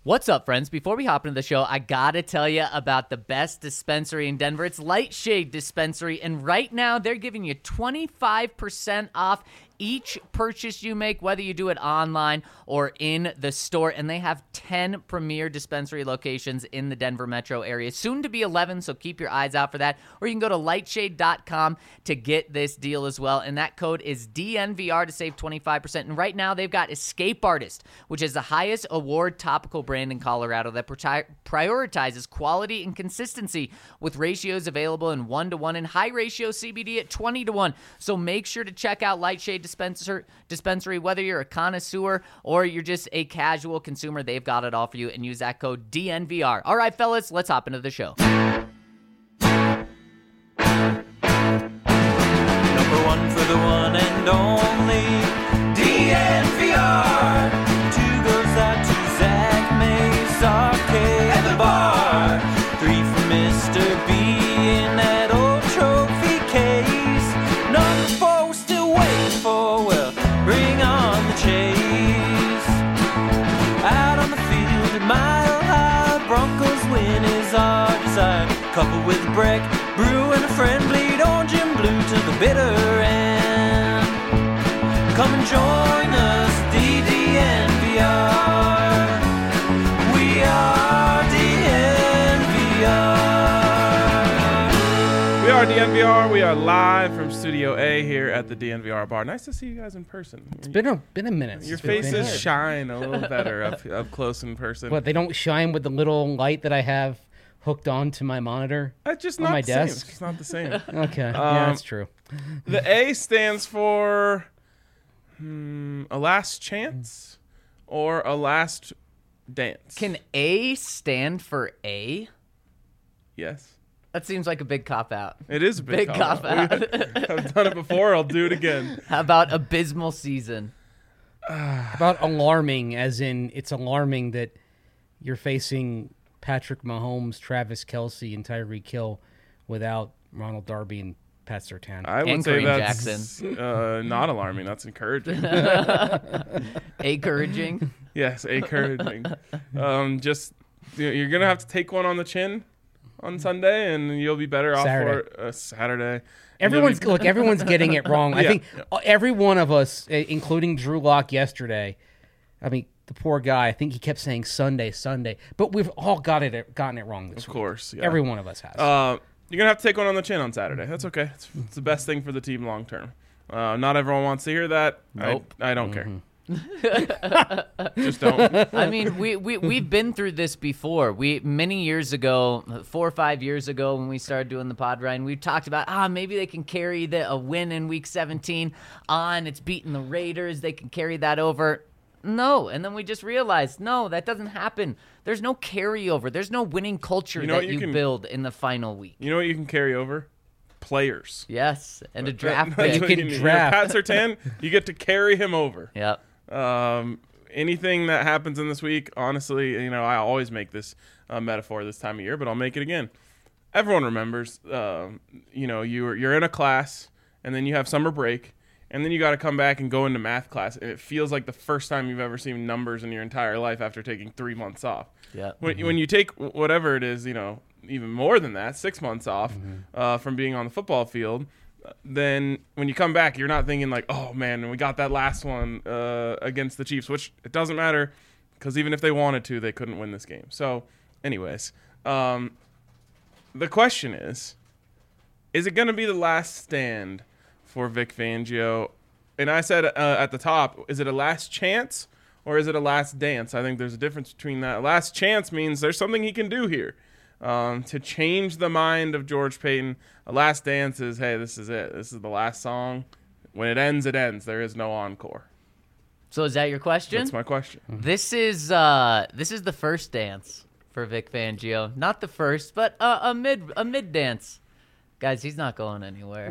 What's up, friends? Before we hop into the show, I gotta tell you about the best dispensary in Denver. It's Lightshade Dispensary, and right now they're giving you 25% off each purchase you make, whether you do it online or in the store. And they have 10 premier dispensary locations in the Denver metro area, soon to be 11, so keep your eyes out for that. Or you can go to lightshade.com to get this deal as well, and that code is DNVR to save 25%. And right now they've got Escape Artist, which is the highest award topical brand in Colorado that prioritizes quality and consistency with ratios available in 1-to-1 and high ratio CBD at 20-to-1. So make sure to check out Lightshade Dispensary, whether you're a connoisseur or you're just a casual consumer. They've got it all for you, and use that code DNVR. All right, fellas, let's hop into the show. Number one for the one and only DNVR. Two goes out to Zach Mays, Arcade at the bar. Three for Mr. B in that old trophy case. Number four we're still waiting for, well, bring on the chase. Out on the field at Mile High, Broncos win is our desire. Couple with a break, brew and a friend, bleed orange and blue to the bitter end. Come and join us, DNVR. We are DNVR. We are DNVR. We are live from Studio A here at the DNVR bar. Nice to see you guys in person. It's been a minute. Your faces shine a little better up close in person. But they don't shine with the little light that I have hooked onto my monitor. It's just on not my the same. desk. It's not the same. Okay, yeah, that's true. The A stands for a last chance or a last dance. Can A stand for A? Yes. That seems like a big cop-out. It is a big cop-out. I've done it before. I'll do it again. How about abysmal season? About alarming, as in it's alarming that you're facing Patrick Mahomes, Travis Kelce, and Tyreek Hill without Ronald Darby and Pat Surtain. I would And say Kareem that's not alarming. That's encouraging. Encouraging? Yes, encouraging. Just you're gonna have to take one on the chin on Sunday, and you'll be better off Saturday. for Saturday. Everyone's getting it wrong. I Yeah. think every one of us, including Drew Lock yesterday, I mean, the poor guy, I think he kept saying Sunday, but we've all gotten it wrong this Of week. course, yeah. Every one of us has. You're gonna have to take one on the chin on Saturday. That's okay. It's the best thing for the team long term. Not everyone wants to hear that. Nope. I don't care. Just don't. I mean, we've been through this before. Many years ago, 4 or 5 years ago, when we started doing the pod, Ryan, we talked about maybe they can carry a win in Week 17 on. It's beating the Raiders. They can carry that over. No, and then we just realized, no, that doesn't happen. There's no carryover. There's no winning culture that you build in the final week. You know what you can carry over? Players. Yes, and a draft That's pick. what You can need. draft. Pat Surtain, you get to carry him over. Yep. Anything that happens in this week, honestly, I always make this metaphor this time of year, but I'll make it again. Everyone remembers, you're in a class, and then you have summer break, and then you got to come back and go into math class, and it feels like the first time you've ever seen numbers in your entire life after taking 3 months off. Yeah. When you take whatever it is, even more than that, 6 months off from being on the football field, then when you come back, you're not thinking like, oh man, we got that last one against the Chiefs, which it doesn't matter because even if they wanted to, they couldn't win this game. So anyways, the question is it going to be the last stand for Vic Fangio? And I said at the top, is it a last chance or is it a last dance? I think there's a difference between that. Last chance means there's something he can do here to change the mind of George Paton. A last dance is, hey, this is it. This is the last song. When it ends, it ends. There is no encore. So is that your question? That's my question. This is the first dance for Vic Fangio. Not the first, but a mid dance. Guys, he's not going anywhere.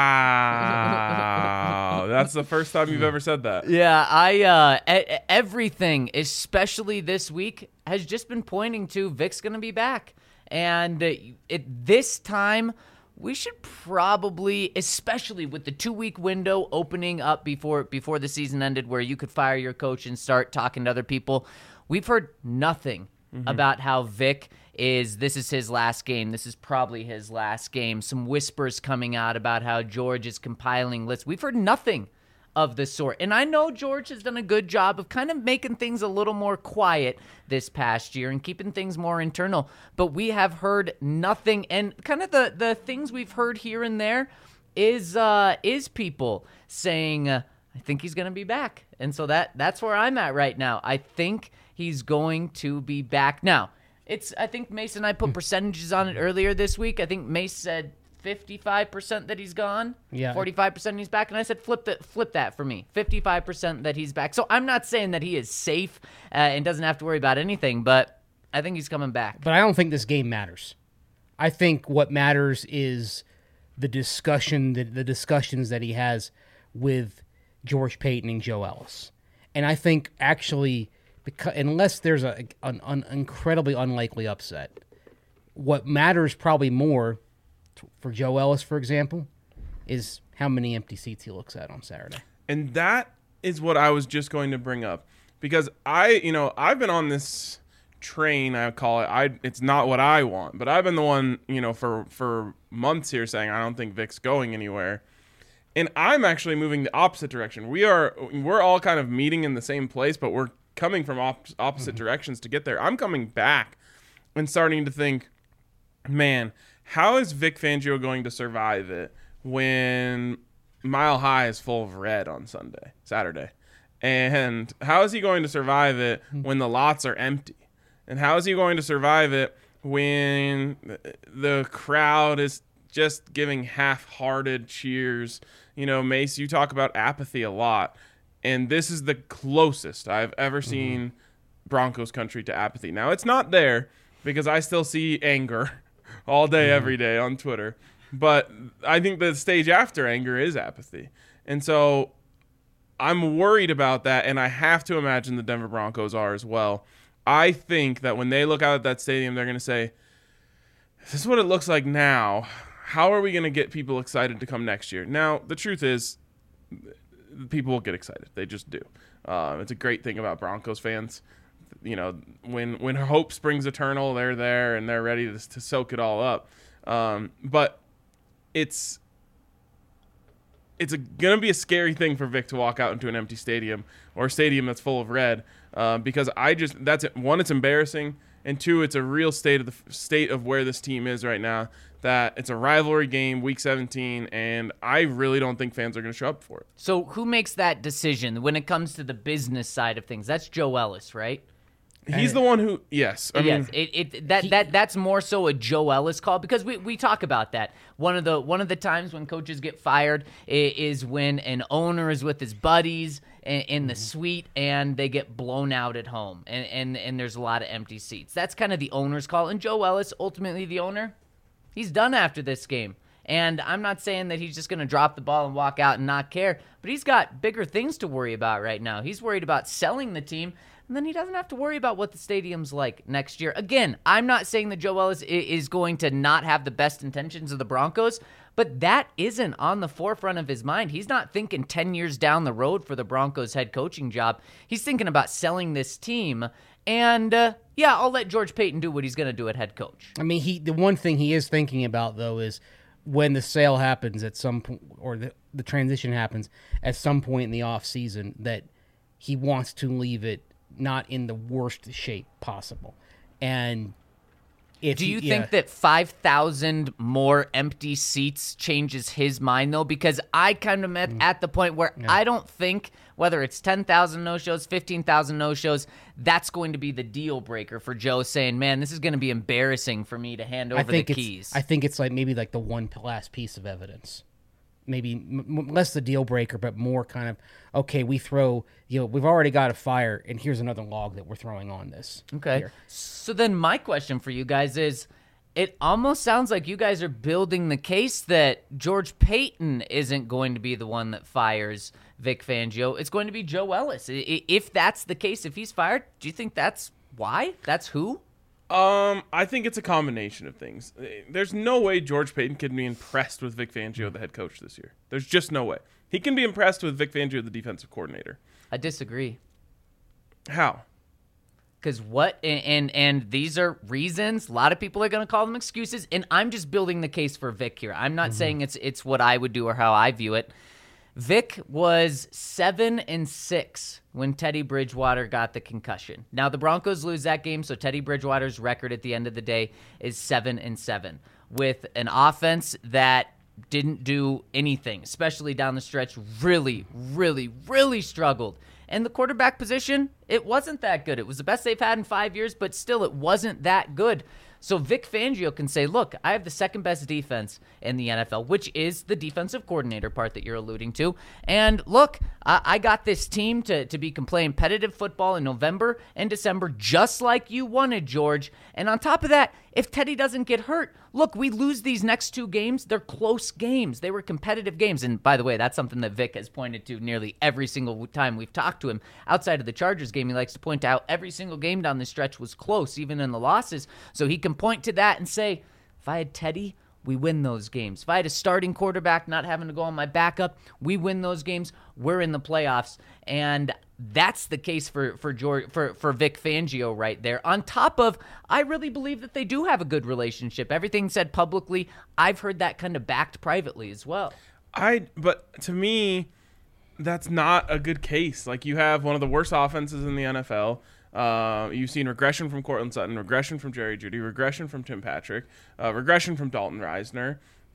Wow. That's the first time you've ever said that. Yeah, everything, especially this week, has just been pointing to Vic's going to be back. And this time, we should probably, especially with the 2-week window opening up before the season ended where you could fire your coach and start talking to other people, We've heard nothing about how Vic this is his last game. This is probably his last game. Some whispers coming out about how George is compiling lists. We've heard nothing of the sort. And I know George has done a good job of kind of making things a little more quiet this past year and keeping things more internal. But we have heard nothing. And kind of the things we've heard here and there is people saying, I think he's going to be back. And so that's where I'm at right now. I think he's going to be back. Now, I think Mace and I put percentages on it earlier this week. I think Mace said 55% that he's gone, 45% he's back, and I said flip that for me, 55% that he's back. So I'm not saying that he is safe and doesn't have to worry about anything, but I think he's coming back. But I don't think this game matters. I think what matters is the discussions that he has with George Payton and Joe Ellis. And I think actually, unless there's an incredibly unlikely upset, what matters probably more for Joe Ellis, for example, is how many empty seats he looks at on Saturday. And that is what I was just going to bring up, because I've been on this train, I call it. It's not what I want, but I've been the one, for months here saying I don't think Vic's going anywhere. And I'm actually moving the opposite direction. We're all kind of meeting in the same place, but we're coming from opposite directions to get there. I'm coming back and starting to think, man, how is Vic Fangio going to survive it when Mile High is full of red on Saturday? And how is he going to survive it when the lots are empty? And how is he going to survive it when the crowd is just giving half-hearted cheers? Mace, you talk about apathy a lot, and this is the closest I've ever seen Broncos country to apathy. Now, it's not there because I still see anger all day, every day on Twitter, but I think the stage after anger is apathy. And so I'm worried about that, and I have to imagine the Denver Broncos are as well. I think that when they look out at that stadium, they're going to say, this is what it looks like now. How are we going to get people excited to come next year? Now, the truth is, people will get excited. They just do. It's a great thing about Broncos fans. When hope springs eternal, they're there and they're ready to soak it all up. But it's going to be a scary thing for Vic to walk out into an empty stadium or a stadium that's full of red, because that's it. One, it's embarrassing, and two, it's a real state of where this team is right now. That it's a rivalry game, Week 17, and I really don't think fans are going to show up for it. So who makes that decision when it comes to the business side of things? That's Joe Ellis, right? He's the one who, yes. That's more so a Joe Ellis call, because we talk about that. One of the times when coaches get fired is when an owner is with his buddies in the suite and they get blown out at home, and there's a lot of empty seats. That's kind of the owner's call. And Joe Ellis, ultimately the owner, he's done after this game. And I'm not saying that he's just going to drop the ball and walk out and not care, but he's got bigger things to worry about right now. He's worried about selling the team, and then he doesn't have to worry about what the stadium's like next year. Again, I'm not saying that Joe Ellis is going to not have the best intentions of the Broncos, but that isn't on the forefront of his mind. He's not thinking 10 years down the road for the Broncos head coaching job. He's thinking about selling this team. And, I'll let George Payton do what he's going to do at head coach. I mean, the one thing he is thinking about, though, is when the sale happens at some point, or the transition happens at some point in the offseason, that he wants to leave it not in the worst shape possible. And do you think that 5,000 more empty seats changes his mind, though? Because I kind of at the point where I don't think, whether it's 10,000 no-shows, 15,000 no-shows, that's going to be the deal breaker for Joe saying, man, this is going to be embarrassing for me to hand over the keys. I think it's maybe the one last piece of evidence. Maybe less the deal breaker, but more kind of, okay, we've already got a fire, and here's another log that we're throwing on this. Okay. Here. So then my question for you guys is, it almost sounds like you guys are building the case that George Payton isn't going to be the one that fires Vic Fangio. It's going to be Joe Ellis. If that's the case, if he's fired, do you think that's why? That's who? I think it's a combination of things. There's no way George Payton can be impressed with Vic Fangio, the head coach this year. There's just no way. He can be impressed with Vic Fangio, the defensive coordinator. I disagree. How? Because and these are reasons. A lot of people are going to call them excuses, and I'm just building the case for Vic here. I'm not saying it's what I would do or how I view it. Vic was 7-6 when Teddy Bridgewater got the concussion. Now the Broncos lose that game, so Teddy Bridgewater's record at the end of the day is 7-7 with an offense that didn't do anything, especially down the stretch. Really, really, really struggled. And the quarterback position, it wasn't that good. It was the best they've had in 5 years, but still it wasn't that good. So Vic Fangio can say, look, I have the second best defense in the NFL, which is the defensive coordinator part that you're alluding to. And look, I got this team to be playing competitive football in November and December, just like you wanted, George. And on top of that, if Teddy doesn't get hurt, look, we lose these next 2 games. They're close games. They were competitive games. And by the way, that's something that Vic has pointed to nearly every single time we've talked to him. Outside of the Chargers game, he likes to point out every single game down the stretch was close, even in the losses. So he can point to that and say, if I had Teddy, we win those games. If I had a starting quarterback not having to go on my backup, we win those games. We're in the playoffs. And that's the case for Vic Fangio right there. On top of, I really believe that they do have a good relationship. Everything said publicly, I've heard that kind of backed privately as well. But to me, that's not a good case. Like, you have one of the worst offenses in the NFL. You've seen regression from Cortland Sutton, regression from Jerry Jeudy, regression from Tim Patrick, regression from Dalton Reisner,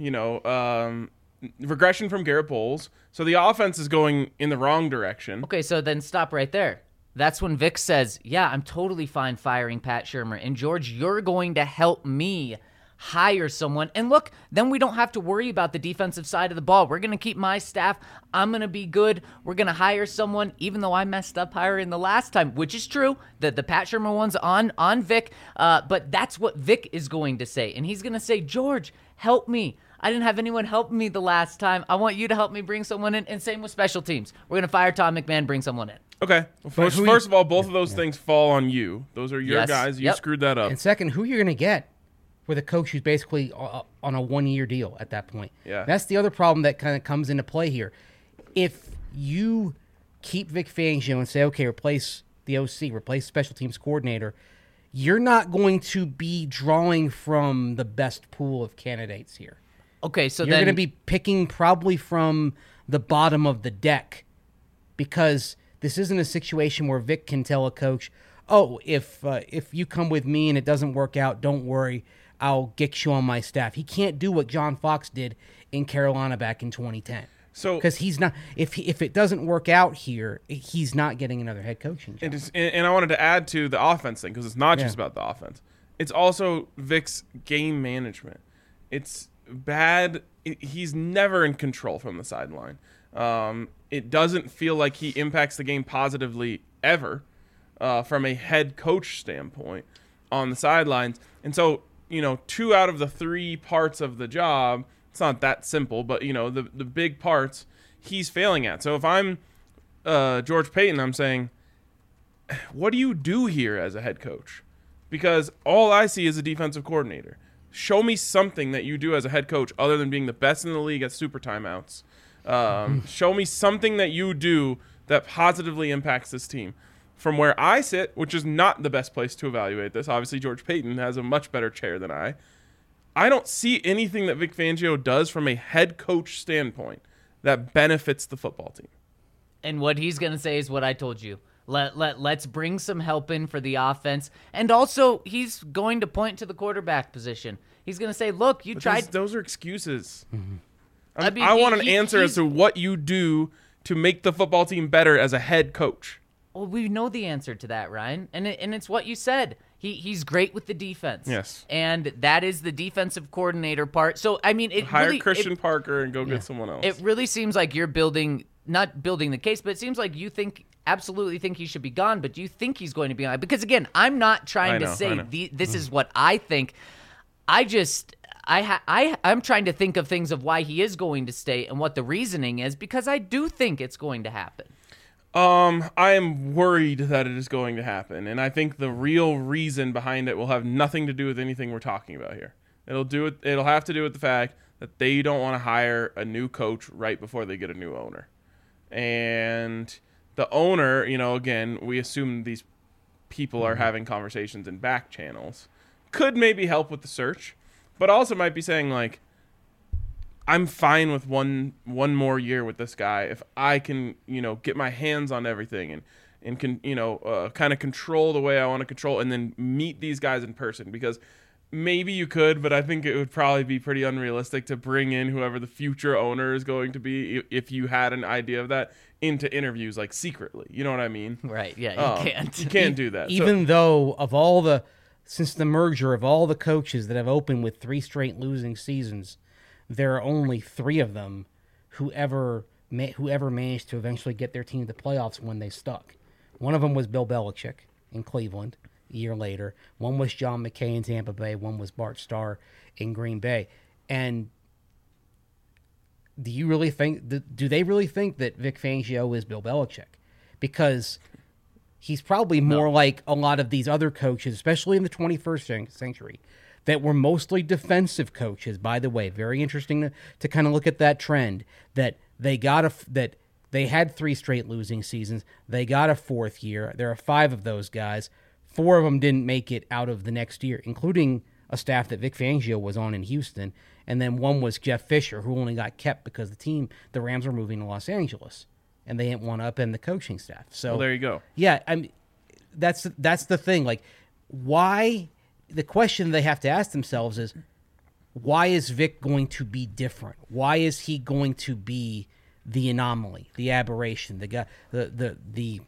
regression from Garrett Bowles. So the offense is going in the wrong direction. Okay, so then stop right there. That's when Vic says, yeah, I'm totally fine firing Pat Shurmur. And George, you're going to help me hire someone. And look, then we don't have to worry about the defensive side of the ball. We're going to keep my staff. I'm going to be good. We're going to hire someone, even though I messed up hiring the last time, which is true. The Pat Shurmur one's on Vic. But that's what Vic is going to say. And he's going to say, George, help me. I didn't have anyone help me the last time. I want you to help me bring someone in. And same with special teams. We're going to fire Tom McMahon, bring someone in. Okay. Well, first of all, both of those things fall on you. Those are your guys. You screwed that up. And second, who you're going to get with a coach who's basically on a 1-year deal at that point. Yeah. That's the other problem that kind of comes into play here. If you keep Vic Fangio and say, okay, replace the OC, replace special teams coordinator, you're not going to be drawing from the best pool of candidates here. Okay, so you're going to be picking probably from the bottom of the deck, because this isn't a situation where Vic can tell a coach, oh, if you come with me and it doesn't work out, don't worry, I'll get you on my staff. He can't do what John Fox did in Carolina back in 2010. So, because he's not, if it doesn't work out here, he's not getting another head coaching job. And I wanted to add to the offense thing, because it's not just about the offense. It's also Vic's game management. It's bad. He's never in control from the sideline. It doesn't feel like he impacts the game positively ever from a head coach standpoint on the sidelines. And so, 2 out of the 3 parts of the job, it's not that simple, but, the big parts he's failing at. So if I'm George Paton, I'm saying, what do you do here as a head coach? Because all I see is a defensive coordinator. Show me something that you do as a head coach other than being the best in the league at super timeouts. Show me something that you do that positively impacts this team. From where I sit, which is not the best place to evaluate this, obviously George Paton has a much better chair than I don't see anything that Vic Fangio does from a head coach standpoint that benefits the football team. And what he's going to say is what I told you. Let's bring some help in for the offense. And also, he's going to point to the quarterback position. He's going to say, look, you tried. Those are excuses. Mm-hmm. I want an answer as to what you do to make the football team better as a head coach. Well, we know the answer to that, Ryan. And it's what you said. He's great with the defense. Yes. And that is the defensive coordinator part. So, I mean, hire Christian Parker and go get someone else. It really seems like you're not building the case, but it seems like you absolutely think he should be gone, but do you think he's going to be gone? Because, again, I'm not trying to say this is what I think. I'm trying to think of things of why he is going to stay and what the reasoning is, because I do think it's going to happen. I am worried that it is going to happen, and I think the real reason behind it will have nothing to do with anything we're talking about here. It'll have to do with the fact that they don't want to hire a new coach right before they get a new owner. And the owner, again, we assume these people are having conversations in back channels could maybe help with the search, but also might be saying like, I'm fine with one more year with this guy if I can, get my hands on everything and can, kind of control the way I want to control, and then meet these guys in person. Because maybe you could, but I think it would probably be pretty unrealistic to bring in whoever the future owner is going to be if you had an idea of that into interviews like secretly. You know what I mean? Right. Yeah. You can't. You can't do that. Even though since the merger of all the coaches that have opened with 3 straight losing seasons, there are only 3 of them who ever managed to eventually get their team to the playoffs when they stuck. One of them was Bill Belichick in Cleveland a year later. One was John McKay in Tampa Bay. One was Bart Starr in Green Bay. And do they really think that Vic Fangio is Bill Belichick? Because he's probably more like a lot of these other coaches, especially in the 21st century, that were mostly defensive coaches. By the way, very interesting to kind of look at that trend, that they had 3 straight losing seasons. They got a 4th year. There are 5 of those guys. 4 of them didn't make it out of the next year, including a staff that Vic Fangio was on in Houston. And then one was Jeff Fisher, who only got kept because the Rams were moving to Los Angeles, and they didn't want to upend the coaching staff. So there you go. Yeah, that's the thing. Like, why? The question they have to ask themselves is, why is Vic going to be different? Why is he going to be the anomaly, the aberration, the guy, the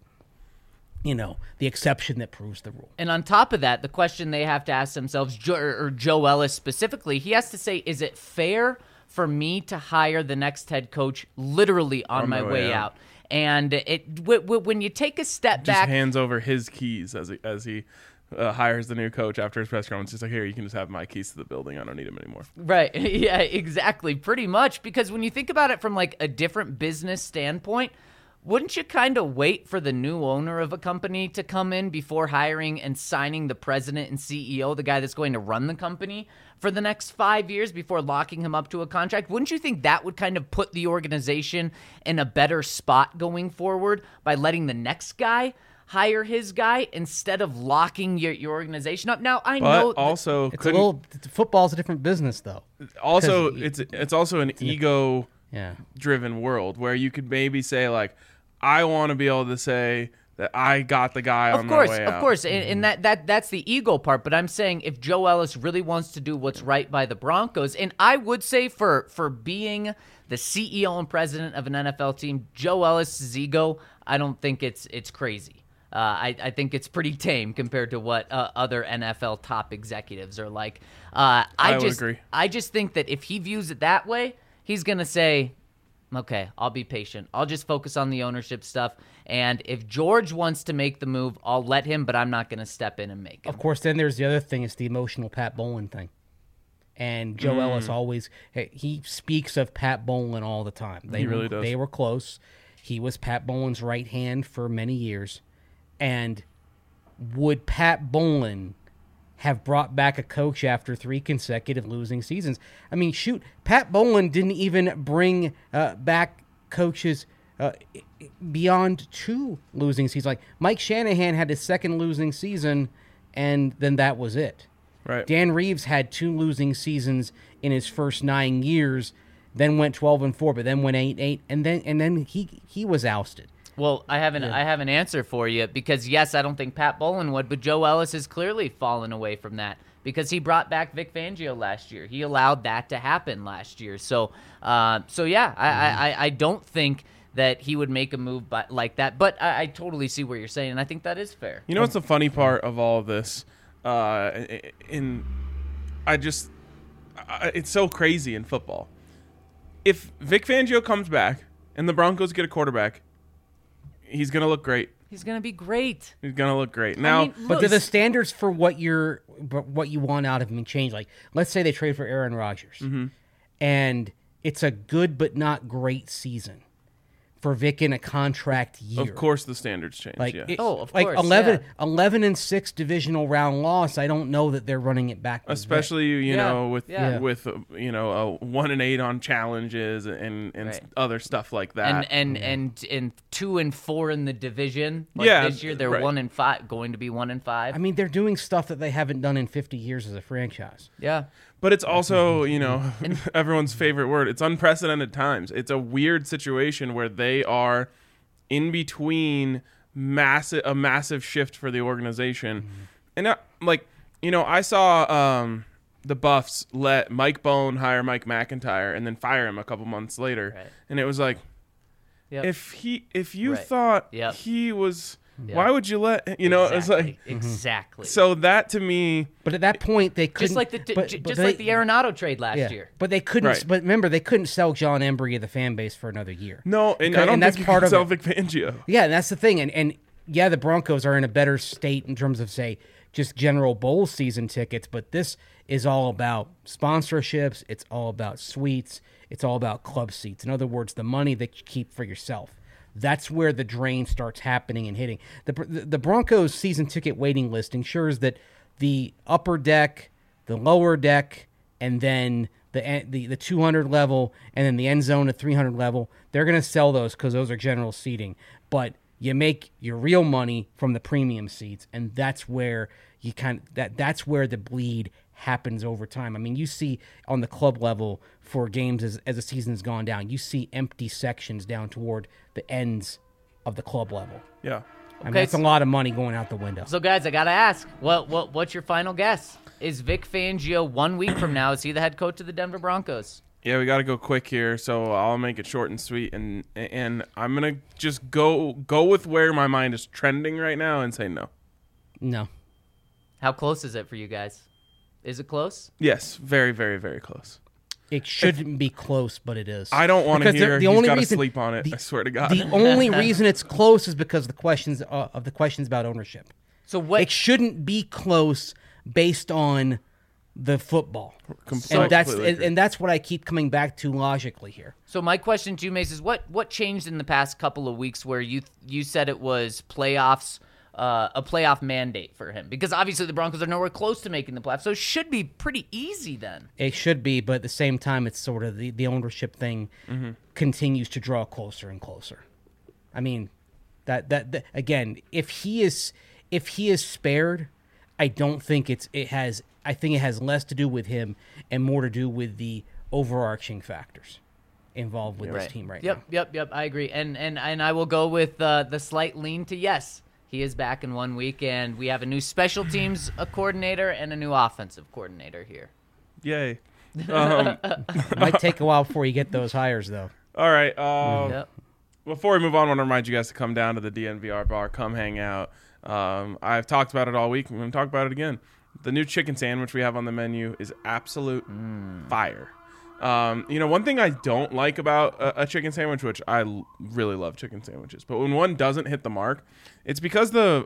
exception that proves the rule? And on top of that, the question they have to ask themselves, Joe Ellis specifically, he has to say, is it fair for me to hire the next head coach literally on my way out? And when you take a step just back, hands over his keys as he hires the new coach after his press conference. He's like, here, you can just have my keys to the building. I don't need them anymore. Right. Yeah, exactly. Pretty much. Because when you think about it from like a different business standpoint, wouldn't you kind of wait for the new owner of a company to come in before hiring and signing the president and CEO, the guy that's going to run the company for the next 5 years, before locking him up to a contract? Wouldn't you think that would kind of put the organization in a better spot going forward by letting the next guy hire his guy instead of locking your organization up? Now, I know also football's a different business, though. Also, it's also an ego-driven world where you could maybe say, like, I want to be able to say that I got the guy on my way out. Of course, and that's the ego part. But I'm saying if Joe Ellis really wants to do what's right by the Broncos, and I would say for being the CEO and president of an NFL team, Joe Ellis' ego, I don't think it's crazy. I think it's pretty tame compared to what other NFL top executives are like. I would agree. I just think that if he views it that way, he's going to say, okay, I'll be patient. I'll just focus on the ownership stuff. And if George wants to make the move, I'll let him, but I'm not going to step in and make him. Of course, then there's the other thing. It's the emotional Pat Bowlen thing. And Joe Ellis he speaks of Pat Bowlen all the time. He really does. They were close. He was Pat Bowlen's right hand for many years. And would Pat Bowlen have brought back a coach after 3 consecutive losing seasons? I mean, shoot, Pat Bowlen didn't even bring back coaches beyond 2 losing seasons. Like, Mike Shanahan had his 2nd losing season, and then that was it. Right. Dan Reeves had 2 losing seasons in his first 9 years, then went 12-4, but then went 8-8, and then he was ousted. Well, I have an answer for you, because yes, I don't think Pat Bowlen would, but Joe Ellis has clearly fallen away from that because he brought back Vic Fangio last year. He allowed that to happen last year. So yeah, I don't think that he would make a move like that, but I totally see what you're saying, and I think that is fair. You know what's the funny part of all of this? It's so crazy in football. If Vic Fangio comes back and the Broncos get a quarterback, he's going to look great. He's going to be great. He's going to look great. Now, but do the standards for what you want out of him change? Like, let's say they trade for Aaron Rodgers, and it's a good but not great season. for Vic in a contract year. Of course, the standards change. Like, yeah. Of like course, 11-6 divisional round loss. I don't know that they're running it back. with Especially you Yeah, know with yeah. with a 1-8 on challenges and Right. other stuff like that. And 2-4 in the division. Yeah, This year they're right. 1-5, going to be 1-5. Vic. I mean, they're doing stuff that they haven't done in 50 years as a franchise. Yeah. But it's also, everyone's favorite word. It's unprecedented times. It's a weird situation where they are in between a massive shift for the organization. And I saw the Buffs let Mike Bone hire Mike McIntyre and then fire him a couple months later. Right. And it was like, Yep. if you Right. thought Yep. he was, Yep. why would you let, it's like, Exactly. so that to me, But at that point, they couldn't. Just like the Arenado trade last year. But they couldn't. Right. But remember, they couldn't sell John Embry of the fan base for another year. no, and Because- I don't and think that's you part can of sell it. Vic Fangio. Yeah, and that's the thing. And yeah, the Broncos are in a better state in terms of, say, just general bowl season tickets. But this is all about sponsorships. It's all about suites. It's all about club seats. In other words, the money that you keep for yourself. That's where the drain starts happening and hitting. The Broncos season ticket waiting list ensures that the upper deck, the lower deck, and then the 200 level, and then the end zone at 300 level, they're going to sell those because those are general seating. But you make your real money from the premium seats, and that's where you that's where the bleed happens over time. I mean, you see on the club level for games as the season's gone down, you see empty sections down toward the ends of the club level. Yeah. I mean, Okay, that's a lot of money going out the window. So, guys, I got to ask, what's your final guess? Is Vic Fangio 1 week from now, is he the head coach of the Denver Broncos? Yeah, we got to go quick here, so I'll make it short and sweet, and I'm gonna just go with where my mind is trending right now and say no. No. How close is it for you guys? Is it close? Yes, very, very, very close. It shouldn't be close, but it is. I don't want to Because hear. the He's only got to reason- sleep on it. the- I swear to God. The only reason it's close is because of the questions about ownership. So what? It shouldn't be close based on the football. Completely agree. And that's what I keep coming back to logically here. So my question to you, Mace, is what changed in the past couple of weeks where you said it was playoffs, a playoff mandate for him? Because obviously the Broncos are nowhere close to making the playoffs, so it should be pretty easy then. It should be, but at the same time, it's sort of the ownership thing continues to draw closer and closer. I mean, that again, if he is spared, I don't think I think it has less to do with him and more to do with the overarching factors involved with this team right now. Yep. I agree, and I will go with the slight lean to yes. He is back in 1 week, and we have a new special teams coordinator and a new offensive coordinator here. Yay. It might take a while before you get those hires, though. All right. Yep. Before we move on, I want to remind you guys to come down to the DNVR bar. Come hang out. I've talked about it all week. I'm going to talk about it again. The new chicken sandwich we have on the menu is absolute fire. One thing I don't like about a chicken sandwich, which I really love chicken sandwiches, but when one doesn't hit the mark, it's because the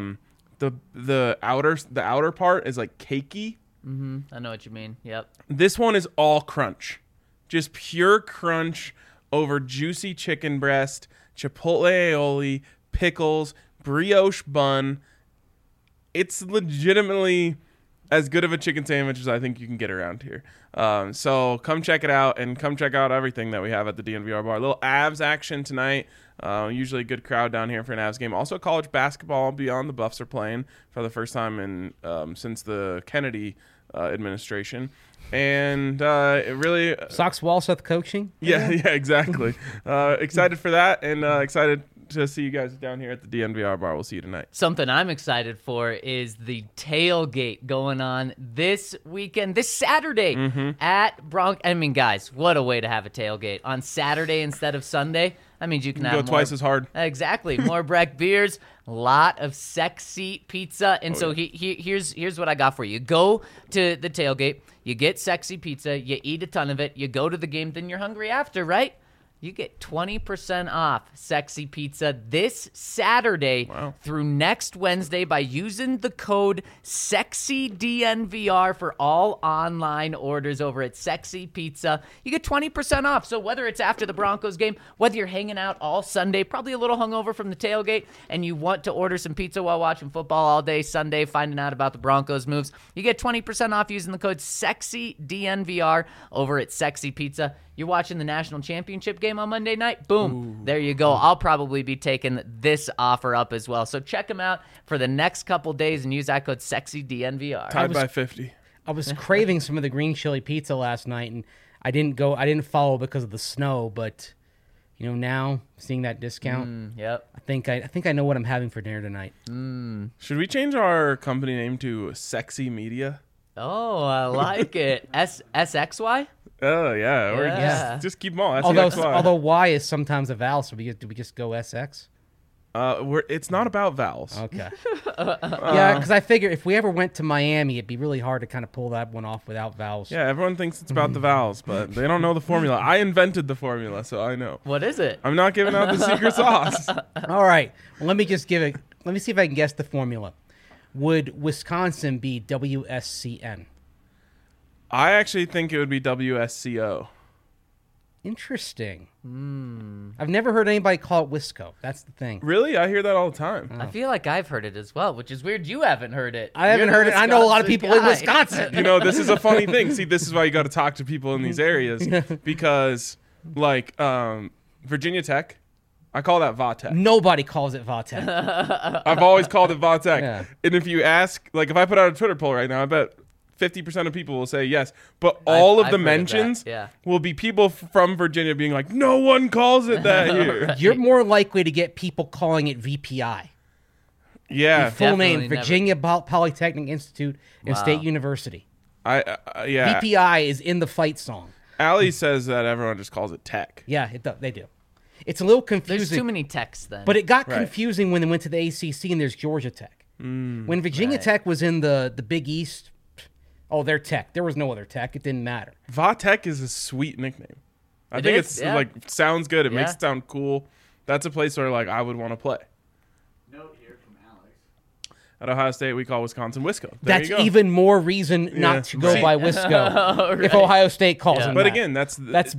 outer part is like cakey. I know what you mean. Yep. This one is all crunch, just pure crunch over juicy chicken breast, chipotle aioli, pickles, brioche bun. It's legitimately as good of a chicken sandwich as I think you can get around here. So come check it out, and come check out everything that we have at the DNVR bar. A little Avs action tonight. Usually a good crowd down here for an Avs game. Also college basketball beyond the Buffs are playing for the first time in since the Kennedy administration. And it really... Sox Walseth coaching? Yeah, exactly. Excited for that, and excited to see you guys down here at the DNVR bar. We'll see you tonight. Something I'm excited for is the tailgate going on this weekend, this Saturday at Bronx. I mean, guys, what a way to have a tailgate on Saturday instead of Sunday. That means you can have Go twice as hard. Exactly. More Breck beers, a lot of sexy pizza. And here's what I got for you. Go to the tailgate, you get sexy pizza, you eat a ton of it, you go to the game, then you're hungry after, right? You get 20% off Sexy Pizza this Saturday through next Wednesday by using the code SEXYDNVR for all online orders over at Sexy Pizza. You get 20% off. So whether it's after the Broncos game, whether you're hanging out all Sunday, probably a little hungover from the tailgate, and you want to order some pizza while watching football all day Sunday, finding out about the Broncos moves, you get 20% off using the code SEXYDNVR over at Sexy Pizza. You're watching the national championship game on Monday night? Boom. There you go. I'll probably be taking this offer up as well. So check them out for the next couple days and use that code SEXYDNVR. Tied by 50. I was craving some of the green chili pizza last night, and I didn't follow because of the snow, but now seeing that discount, Yep. I think I know what I'm having for dinner tonight. Should we change our company name to Sexy Media? Oh, I like it. SXY? Oh, yeah. Or Yeah. just keep them all. Although Y is sometimes a vowel, so do we just go SX? It's not about vowels. Okay. Yeah, because I figure if we ever went to Miami, it'd be really hard to kind of pull that one off without vowels. Yeah, everyone thinks it's about the vowels, but they don't know the formula. I invented the formula, so I know. What is it? I'm not giving out the secret sauce. All right. Well, let me see if I can guess the formula. Would Wisconsin be WSCN? I actually think it would be WSCO. Interesting. I've never heard anybody call it Wisco. That's the thing. Really? I hear that all the time. I feel like I've heard it as well, which is weird. You haven't heard it. I haven't heard it. I know a lot of people in Wisconsin. This is a funny thing. See, this is why you got to talk to people in these areas because, like, Virginia Tech, I call that Vatech. Nobody calls it Vatech. I've always called it Vatech. Yeah. And if you ask, like, if I put out a Twitter poll right now, I bet 50% of people will say yes. But all of I've the heard of mentions that, yeah. will be people from Virginia being like, no one calls it that here. You're more likely to get people calling it VPI. Yeah. Full name, Definitely Virginia Polytechnic Institute and Wow. State University. Yeah. VPI is in the fight song. Allie says that everyone just calls it tech. Yeah, they do. It's a little confusing. There's too many texts then. But it got Right. confusing when they went to the ACC and there's Georgia Tech. When Virginia Tech was in the Big East, they're Tech. There was no other Tech. It didn't matter. Vatech is a sweet nickname. I It think is, it's yeah. like sounds good. It makes Yeah. it sound cool. That's a place where like I would want to play. Note here from Alex. At Ohio State, we call Wisconsin Wisco. There That's you go. even more reason not to go Right. by Wisco if Right. Ohio State calls Yeah. them But that. again, that's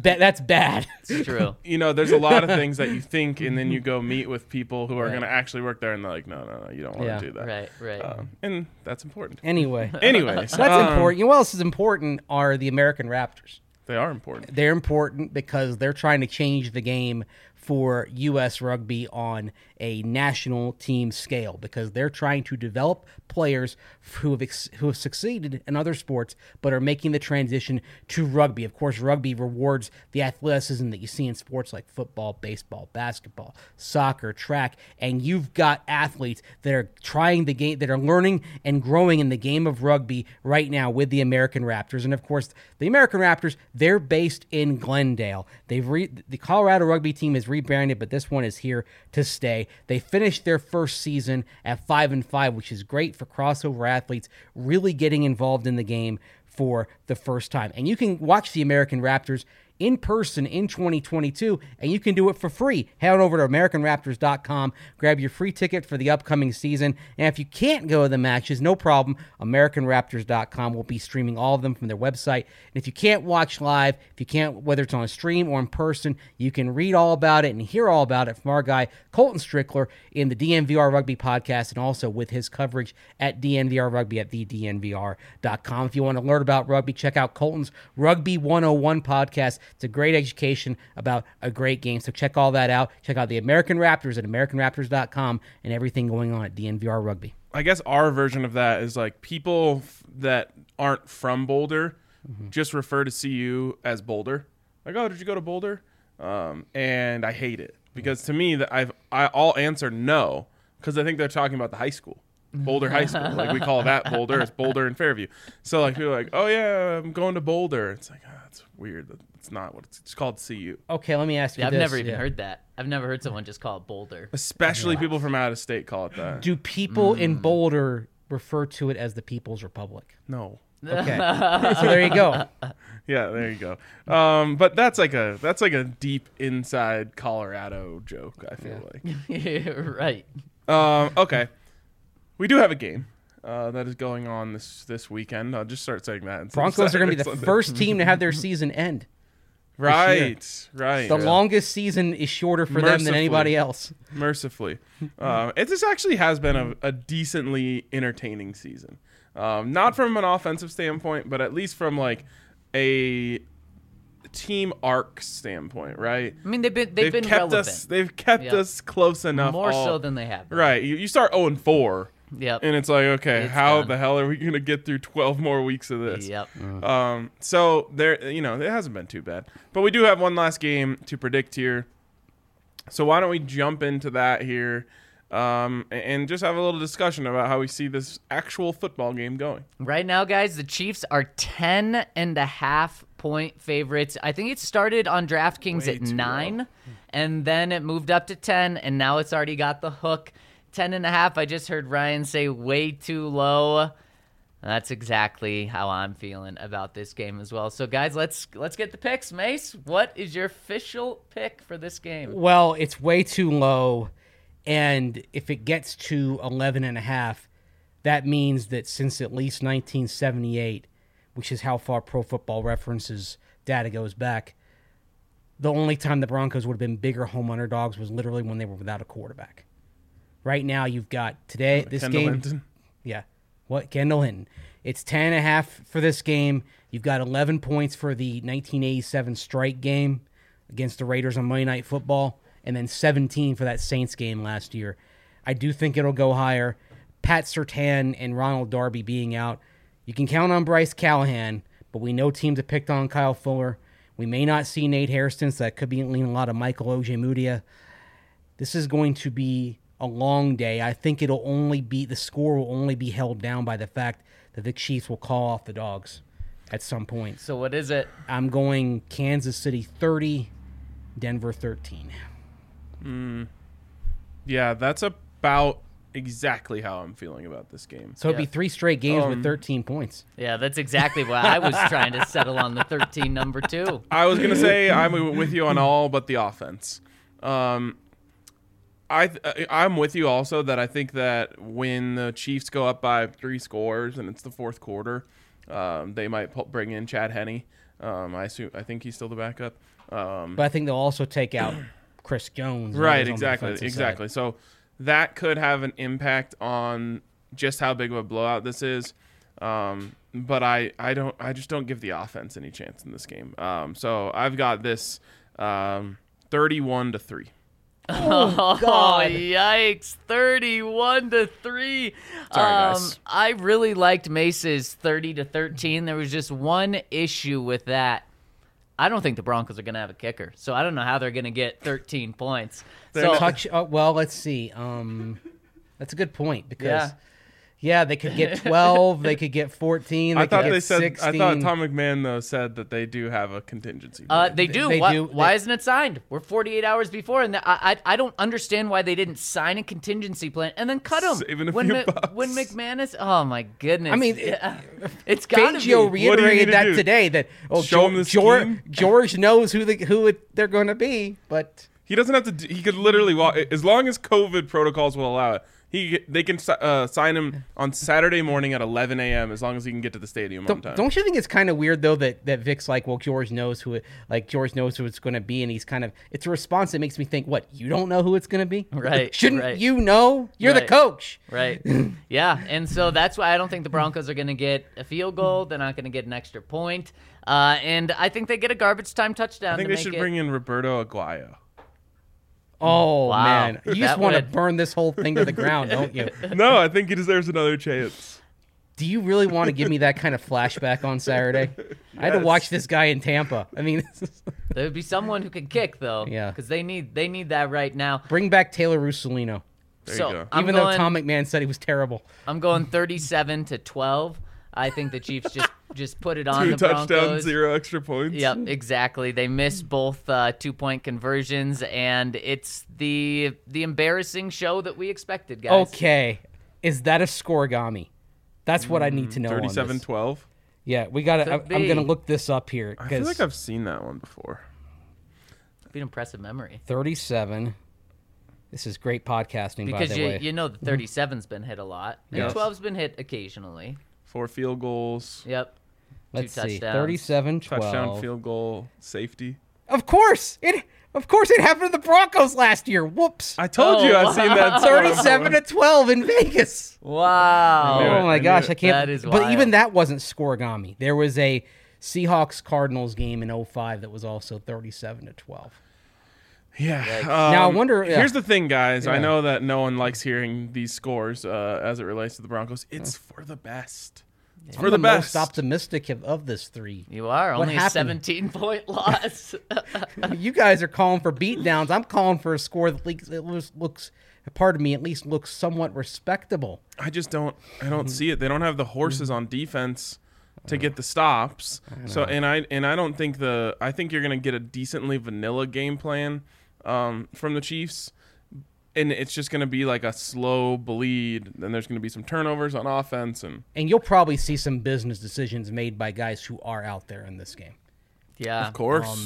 bad. It's true. there's a lot of things that you think, and then you go meet with people who are going to actually work there, and they're like, no, you don't want Yeah. to do that. Right. And that's important. Anyway, Anyways, that's important. You know what else is important are the American Raptors. They are important. They're important because they're trying to change the game for U.S. rugby on a national team scale because they're trying to develop players who have succeeded in other sports but are making the transition to rugby. Of course, rugby rewards the athleticism that you see in sports like football, baseball, basketball, soccer, track, and you've got athletes that are trying the game, that are learning and growing in the game of rugby right now with the American Raptors. And of course, the American Raptors, they're based in Glendale. The Colorado rugby team is rebranded, but this one is here to stay. They finished their first season at 5-5, which is great for crossover athletes really getting involved in the game for the first time. And you can watch the American Raptors in person in 2022, and you can do it for free. Head on over to AmericanRaptors.com, grab your free ticket for the upcoming season, and if you can't go to the matches, no problem. AmericanRaptors.com will be streaming all of them from their website. And if you can't watch live, whether it's on a stream or in person, you can read all about it and hear all about it from our guy, Colton Strickler, in the DNVR Rugby podcast, and also with his coverage at DNVR Rugby at thednvr.com. If you want to learn about rugby, check out Colton's Rugby 101 podcast. It's a great education about a great game. So check all that out. Check out the American Raptors at AmericanRaptors.com and everything going on at DNVR Rugby. I guess our version of that is like people that aren't from Boulder just refer to CU as Boulder. Like, oh, did you go to Boulder? And I hate it because to me that I'll answer no because I think they're talking about the high school. Boulder High School. Like we call that Boulder. It's Boulder and Fairview. So like people are like, oh yeah, I'm going to Boulder. It's like, that's weird. It's not what it's called CU. Okay, let me ask you I've this. never even heard that. I've never heard someone just call it Boulder. Especially people from out of state call it that. Do people in Boulder refer to it as the People's Republic? No. Okay, so there you go. Yeah, there you go. But that's like a deep inside Colorado joke, I feel like. Right. Okay. We do have a game that is going on this weekend. I'll just start saying that. Broncos are going to be the Sunday. first team to have their season end. Right. The longest season is shorter for them than Mercifully. anybody else. Mercifully. This actually has been a decently entertaining season. Not from an offensive standpoint, but at least from like a team arc standpoint, right? I mean, they've been kept relevant. They've kept Yep. us close enough. More so than they have. Right. You start 0-4. Yep. And it's like, okay, It's how done. the hell are we going to get through 12 more weeks of this? Yep. So there, it hasn't been too bad, but we do have one last game to predict here. So why don't we jump into that here, and just have a little discussion about how we see this actual football game going. Right now, guys, the Chiefs are 10.5-point favorites. I think it started on DraftKings Way at too 9, and then it moved up to 10, and now it's already got the hook. 10.5. I just heard Ryan say way too low. That's exactly how I'm feeling about this game as well. So, guys, let's get the picks. Mace, what is your official pick for this game? Well, it's way too low, and if it gets to 11.5, that means that since at least 1978, which is how far Pro Football Reference's data goes back, the only time the Broncos would have been bigger home underdogs was literally when they were without a quarterback. Right now, you've got this Kendall game. Hinton. Yeah. What? Kendall Hinton. It's 10.5 for this game. You've got 11 points for the 1987 strike game against the Raiders on Monday Night Football, and then 17 for that Saints game last year. I do think it'll go higher. Pat Surtain and Ronald Darby being out. You can count on Bryce Callahan, but we know teams have picked on Kyle Fuller. We may not see Nate Hairston, so that could be leaning a lot of Michael Ojemudia. This is going to be a long day. I think the score will only be held down by the fact that the Chiefs will call off the dogs at some point. So what is it? I'm going Kansas City 30, Denver 13. Yeah, that's about exactly how I'm feeling about this game. So it'd be 3 straight games Um, with 13 points. Yeah, that's exactly why I was trying to settle on the 13 number 2. I was gonna say I'm with you on all but the offense. I'm with you also that I think that when the Chiefs go up by 3 scores and it's the fourth quarter, they might bring in Chad Henne. I think he's still the backup. But I think they'll also take out Chris Jones. Right, who's on the defensive side. exactly. So that could have an impact on just how big of a blowout this is. But I just don't give the offense any chance in this game. So I've got this 31-3. Oh, God. yikes. 31-3. Sorry, guys. I really liked Mace's 30-13. There was just one issue with that. I don't think the Broncos are going to have a kicker, so I don't know how they're going to get 13 points. So, Well, let's see. That's a good point because Yeah. they could get 12, they could get 14, I they thought could they get said. 16. I thought Tom McMahon though said that they do have a contingency. they do. They why, do. Why isn't it signed? We're 48 hours before, and I don't understand why they didn't sign a contingency plan and then cut him. Saving a when few bucks. when McManus. Oh my goodness. I mean, it's got to Fangio be. What do you need reiterated to that do? today that Show him the scheme? George knows who they're going to be, but He doesn't have to. He could literally walk as long as COVID protocols will allow it. They can sign him on Saturday morning at 11 a.m. as long as he can get to the stadium on time. don't you think it's kind of weird though that Vic's like, well, George knows who it's going to be, and he's kind of it's a response that makes me think, what, you don't know who it's going to be? Right, Shouldn't right. you know? You're the Right. coach. Right. Yeah. And so that's why I don't think the Broncos are going to get a field goal. They're not going to get an extra point. And I think they get a garbage time touchdown. I think they should bring in Roberto Aguayo. Oh Wow. man, you just That want to would- burn this whole thing to the ground, don't you? No, I think he deserves another chance. Do you really want to give me that kind of flashback on Saturday? I had to Yes. watch this guy in Tampa. I mean, There would be someone who can kick, though. Yeah. Because they need that right now. bring back Taylor Russolino. There so you go. I'm Even going, though Tom McMahon said he was terrible. I'm going 37-12. I think the Chiefs just put it on 2 the touchdowns, Broncos. 0 extra points. Yep, exactly. They missed both 2-point conversions, and it's the embarrassing show that we expected, guys. Okay, is that a scoregami? That's what I need to know. 37-12. Yeah, we got to. Could I'm going to be. look this up here I feel because like I've seen that one before. Be an impressive memory. 37. This is great podcasting, by Because the way. you know the 37's been hit a lot. And Yes. 12's been hit occasionally. 4 field goals, Yep. Let's 2 see. touchdowns. 37, 12. touchdown, field goal, safety. Of course it happened to the Broncos last year. Whoops. I told you I've seen that. 37-12 in Vegas. Wow. knew it. Oh my I knew gosh, it. I can't. That is but wild. even that wasn't scoregami. There was a Seahawks Cardinals game in 05 that was also 37-12. Yeah. Now, I wonder- yeah. Here's the thing, guys. I Yeah. know that no one likes hearing these scores as it relates to the Broncos. It's for the best. It's for I'm the the best. most optimistic of this three. You are What only a happened? 17-point loss. You guys are calling for beatdowns. I'm calling for a score that looks, pardon me, at least looks somewhat respectable. I just don't. I don't see it. They don't have the horses on defense to get the stops. So and I don't think I think you're gonna get a decently vanilla game plan from the Chiefs. And it's just going to be like a slow bleed. Then there's going to be some turnovers on offense, and And you'll probably see some business decisions made by guys who are out there in this game. Yeah. of course,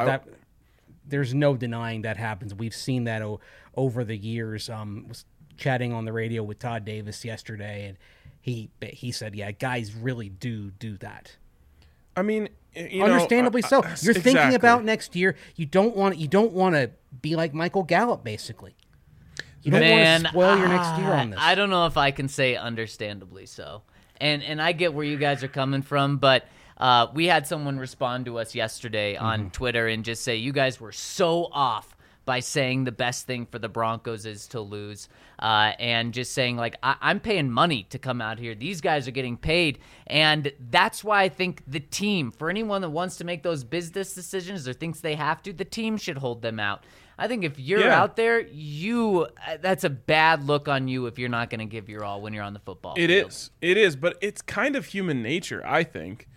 There's no denying that happens. We've seen that over the years. Was chatting on the radio with Todd Davis yesterday, and he said, "Yeah, guys really do that." I mean, Understandably so. You're thinking exactly. about next year. You don't want to be like Michael Gallup, basically. You don't want to spoil your next year on this. I don't know if I can say understandably so. And I get where you guys are coming from, but we had someone respond to us yesterday on Twitter and just say, you guys were so off by saying the best thing for the Broncos is to lose. And just saying, like, I'm paying money to come out here. These guys are getting paid. And that's why I think the team, for anyone that wants to make those business decisions or thinks they have to, the team should hold them out. I think if you're out there, that's a bad look on you if you're not going to give your all when you're on the football field. It is, but it's kind of human nature, I think,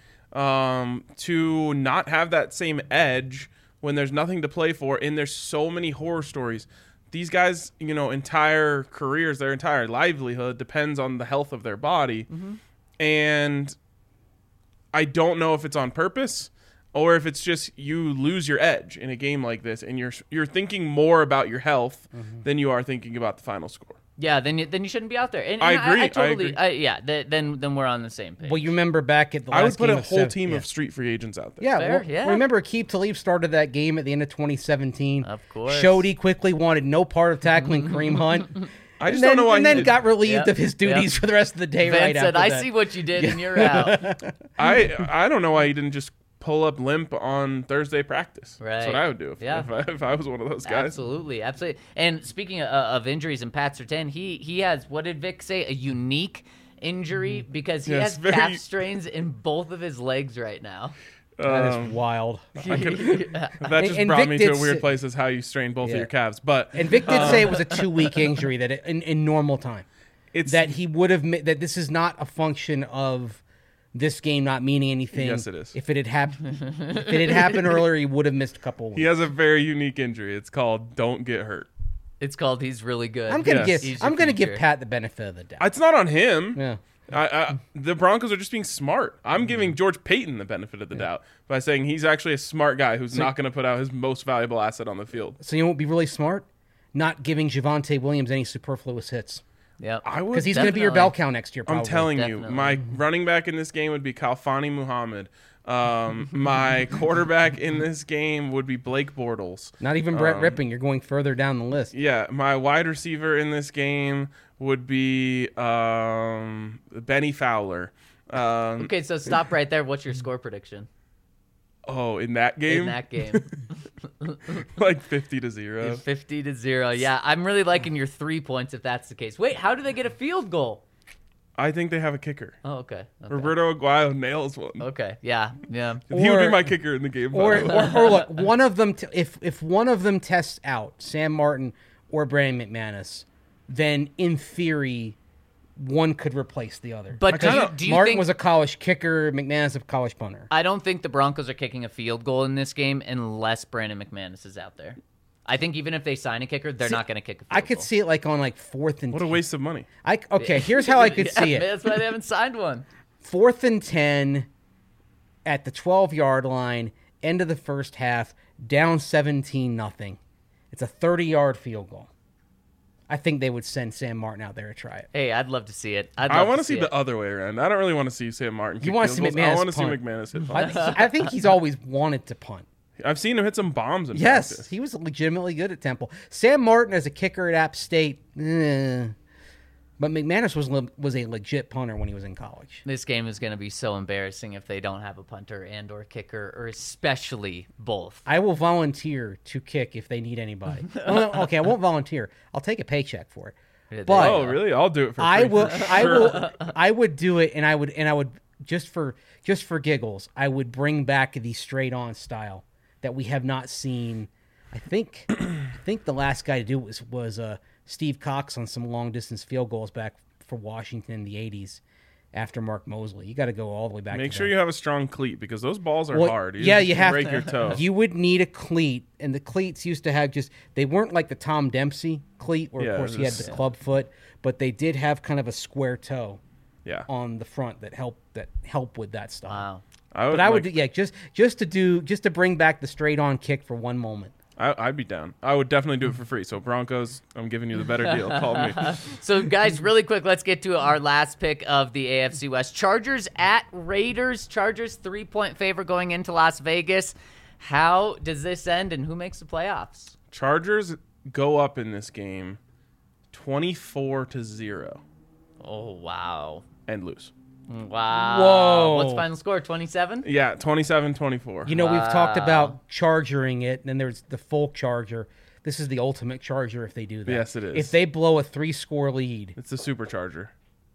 to not have that same edge when there's nothing to play for, and there's so many horror stories. These guys, entire careers, their entire livelihood depends on the health of their body, and I don't know if it's on purpose or if it's just you lose your edge in a game like this, and you're thinking more about your health than you are thinking about the final score. Yeah, then you shouldn't be out there. And I agree. I totally. agree. Then we're on the same page. Well, you remember back at the last I would put game a of whole team yeah. of street free agents out there. Yeah, Fair, well, yeah. remember Aqib Talib started that game at the end of 2017. Of course. Shody quickly wanted no part of tackling Kareem Hunt. I just don't know why and he then did- got relieved Yeah, of his duties yeah. for the rest of the day. Vance right said, after "I that. see what you did, and you're out." I don't know why he didn't just pull up limp on Thursday practice. That's what Right. I would do if I was one of those guys. Absolutely. And speaking of injuries and Pat Surtain, he has, what did Vic say, a unique injury because he Yes, has very- calf strains in both of his legs right now. That is wild. That just And brought Vic me to did a weird say- place as how you strain both of Yeah. your calves. But And Vic did say it was a 2-week injury that in normal time. it's That he would have that this is not a function of this game not meaning anything. Yes, it is. If it had happened earlier, he would have missed a couple of weeks. he has a very unique injury. It's called "Don't Get Hurt." It's called He's Really Good. I'm gonna Yes. He's give your I'm gonna give future. Pat the benefit of the doubt. It's not on him. Yeah. The Broncos are just being smart. I'm giving George Payton the benefit of the doubt by saying he's actually a smart guy who's not going to put out his most valuable asset on the field. So you won't be really smart, not giving Javonte Williams any superfluous hits Yep. I would. because he's going to be your Definitely. bell cow next year. Probably. I'm telling Definitely. you, my running back in this game would be Kalfani Muhammad. My quarterback in this game would be Blake Bortles. Not even Brett Ripping. You're going further down the list. Yeah, my wide receiver in this game would be Benny Fowler. Okay, so stop right there. What's your score prediction Oh, in that game, in that game? like 50-0. 50-0. Yeah, I'm really liking your 3 points if that's the case. Wait, how do they get a field goal? I think they have a kicker. Oh, okay. Roberto Aguayo nails one. Okay. Yeah. He would Or- be my kicker in the game. by Or, the way. or look, one of them. If one of them tests out, Sam Martin or Brandon McManus, then in theory, one could replace the other. But kinda- do you Martin think was a college kicker, McManus a college punter. I don't think the Broncos are kicking a field goal in this game unless Brandon McManus is out there. I think even if they sign a kicker, they're not going to kick a field I could goal. see it like on like 4th and What a 10. waste of money. Okay, here's how I could Yeah, see it. That's why they haven't signed one. 4th and 10 at the 12-yard line, end of the first half, down 17-0. It's a 30-yard field goal. I think they would send Sam Martin out there to try it. Hey, I'd love to see it. I want to see it. the other way around. I don't really want to see Sam Martin kick wanna see field goals. McManus I want to see punt. McManus hit punts. I think he's always wanted to punt. I've seen him hit some bombs in Yes, practice. he was legitimately good at Temple. Sam Martin as a kicker at App State, but McManus was a legit punter when he was in college. This game is going to be so embarrassing if they don't have a punter and or kicker, or especially both. I will volunteer to kick if they need anybody. Okay, I won't volunteer. I'll take a paycheck for it. Yeah, But Oh, really? I'll do it for free. I would do it, and I would just for giggles, I would bring back the straight on style that we have not seen. I think the last guy to do it was Steve Cox on some long distance field goals back for Washington in the 80s after Mark Mosley. You got to go all the way back. Make to sure that. you have a strong cleat because those balls are Well, hard. yeah, you have break to. your toe. You would need a cleat, and the cleats used to have they weren't like the Tom Dempsey cleat, where Yeah, of course he had this- the club foot, but they did have kind of a square toe Yeah. on the front that help with that stuff. Wow. But I would just to bring back the straight on kick for one moment. I'd be down. I would definitely do it for free. So Broncos, I'm giving you the better deal. Call me. So, guys, really quick, let's get to our last pick of the AFC West. Chargers at Raiders. Chargers 3-point favorite going into Las Vegas. How does this end, and who makes the playoffs? Chargers go up in this game 24-0 Oh, wow. and lose. Wow. Whoa. What's the final score, 27? Yeah, 27-24. You know, we've talked about chargering it, and then there's the full charger. This is the ultimate charger if they do that. Yes, it is. If they blow a 3-score lead, It's the supercharger.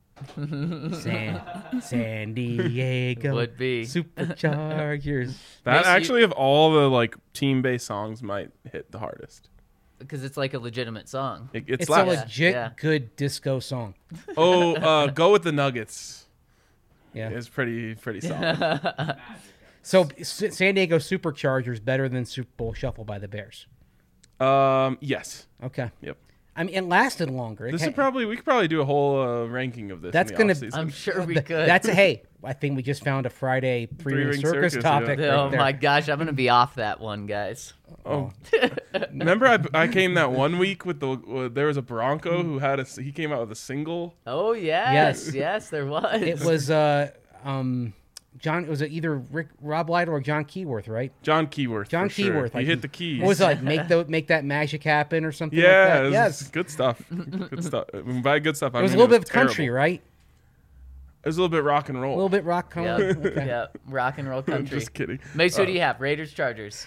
San Diego Would be. Superchargers. That Makes you- actually, of all the like team-based songs, might hit the hardest. Because it's like a legitimate song. It It's a slaps. legit Yeah. good disco song. Go with the Nuggets. Yeah. It's pretty solid. So San Diego Superchargers better than Super Bowl Shuffle by the Bears. Yes. Okay. Yep. I mean, it lasted longer. We could probably do a whole ranking of this. That's in the gonna- offseason. I'm sure we could. Hey, I think we just found a Friday three-ring Three-ring circus circus, topic. yeah. right Oh, there. my gosh. I'm going to be off that one, guys. Oh, remember I came that one week with there was a Bronco who had he came out with a single. Oh, yes. Yes, there was. It was John. It was either Rob Lytle or John Keyworth, right? John Keyworth. John for sure. Keyworth. He like, hit the keys. What was it like? Make that magic happen or something. Yeah, Like that? it was Yes. good stuff. Good stuff. By good stuff, I It was a mean little bit of terrible. country, right? It was a little bit rock and roll. A little bit rock country. Yep. Okay. Yep. Rock and roll country. Just kidding. Mace, who do you have? Raiders, Chargers.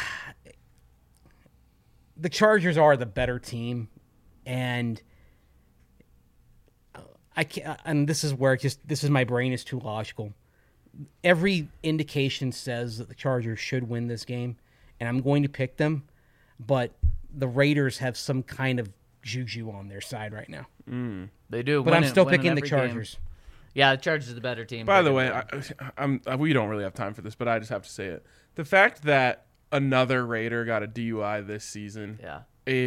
The Chargers are the better team, and I can't. And this is where my brain is too logical. Every indication says that the Chargers should win this game, and I'm going to pick them, but the Raiders have some kind of juju on their side right now. They do. But I'm still winning picking the every game. Chargers. Yeah, the Chargers are the better team. By They're the way, gonna win. we don't really have time for this, but I just have to say it. The fact that another Raider got a DUI this season Yeah.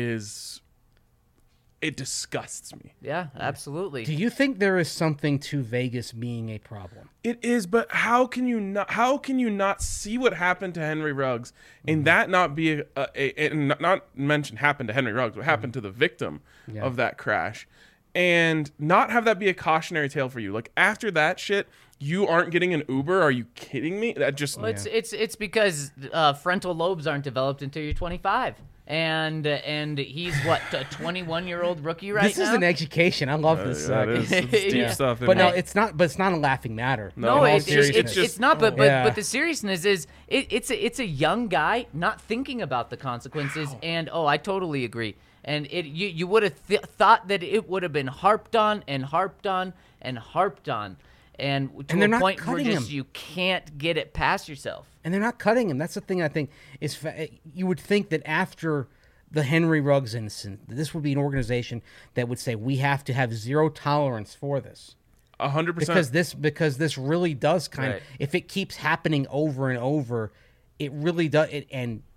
it disgusts me. Yeah, absolutely. Do you think there is something to Vegas being a problem? It is, but how can you not see what happened to Henry Ruggs and that not be and not mention happened to Henry Ruggs, what happened to the victim of that crash, and not have that be a cautionary tale for you? Like after that shit, you aren't getting an Uber? Are you kidding me? That just Well, it's because frontal lobes aren't developed until you're 25. And he's what, a 21-year-old rookie right This now? is an education. I love this. that is it's deep Yeah. stuff. But no, isn't it? it's not. But it's not a laughing matter. No, In all it's seriousness. it's not. But Yeah. but the seriousness is it's a young guy not thinking about the consequences. And I totally agree. And you would have thought that it would have been harped on and harped on and harped on, and to they're a not point where cutting just him. you can't get it past yourself. And they're not cutting him. That's the thing I think is you would think that after the Henry Ruggs incident, this would be an organization that would say we have to have zero tolerance for this 100%. because this really does kind of Right. if it keeps happening over and over, it really does. And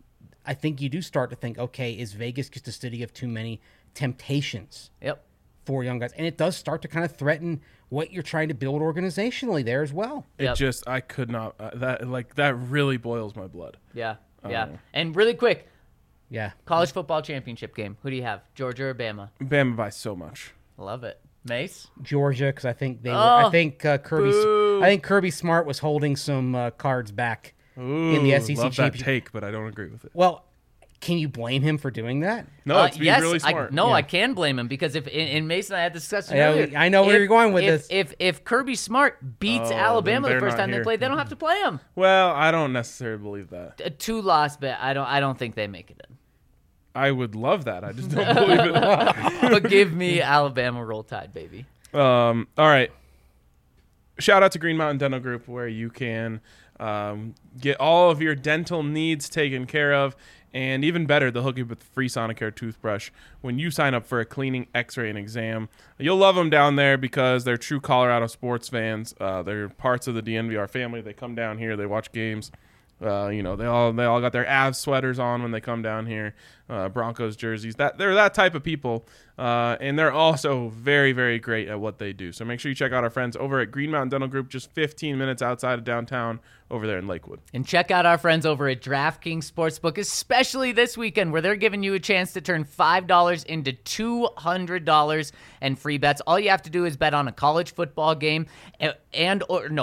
I think you do start to think, okay, is Vegas just a city of too many temptations Yep. for young guys? And it does start to kind of threaten what you're trying to build organizationally there as well. Yep. I could not. That really boils my blood. Yeah. And really quick, Yeah. college football championship game. Who do you have? Georgia or Bama? Bama by so much. Love it. Mace? Georgia, because I think they were. Oh, I think Kirby Smart was holding some cards back in the SEC love that championship. take, but I don't agree with it. Well, can you blame him for doing that? No, it's being yes, really smart. I can blame him because if in Mason and I had this discussion Yeah, earlier. I know where you're going with if, this. If Kirby Smart beats Oh, Alabama then the they're first not time they here. play, they don't have to play him. Well, I don't necessarily believe that. A 2-loss bet. I don't think they make it in. I would love that. I just don't believe it. But give me Alabama Roll Tide, baby. All right. Shout out to Green Mountain Dental Group, where you can get all of your dental needs taken care of. And even better, they'll hook you with a free Sonicare toothbrush when you sign up for a cleaning, x-ray, and exam. You'll love them down there because they're true Colorado sports fans. They're parts of the DNVR family. They come down here. They watch games. They all got their Avs sweaters on when they come down here, Broncos jerseys. They're that type of people, and they're also very, very great at what they do. So make sure you check out our friends over at Green Mountain Dental Group, just 15 minutes outside of downtown, over there in Lakewood. And check out our friends over at DraftKings Sportsbook, especially this weekend, where they're giving you a chance to turn $5 into $200 and free bets. All you have to do is bet on a college football game or an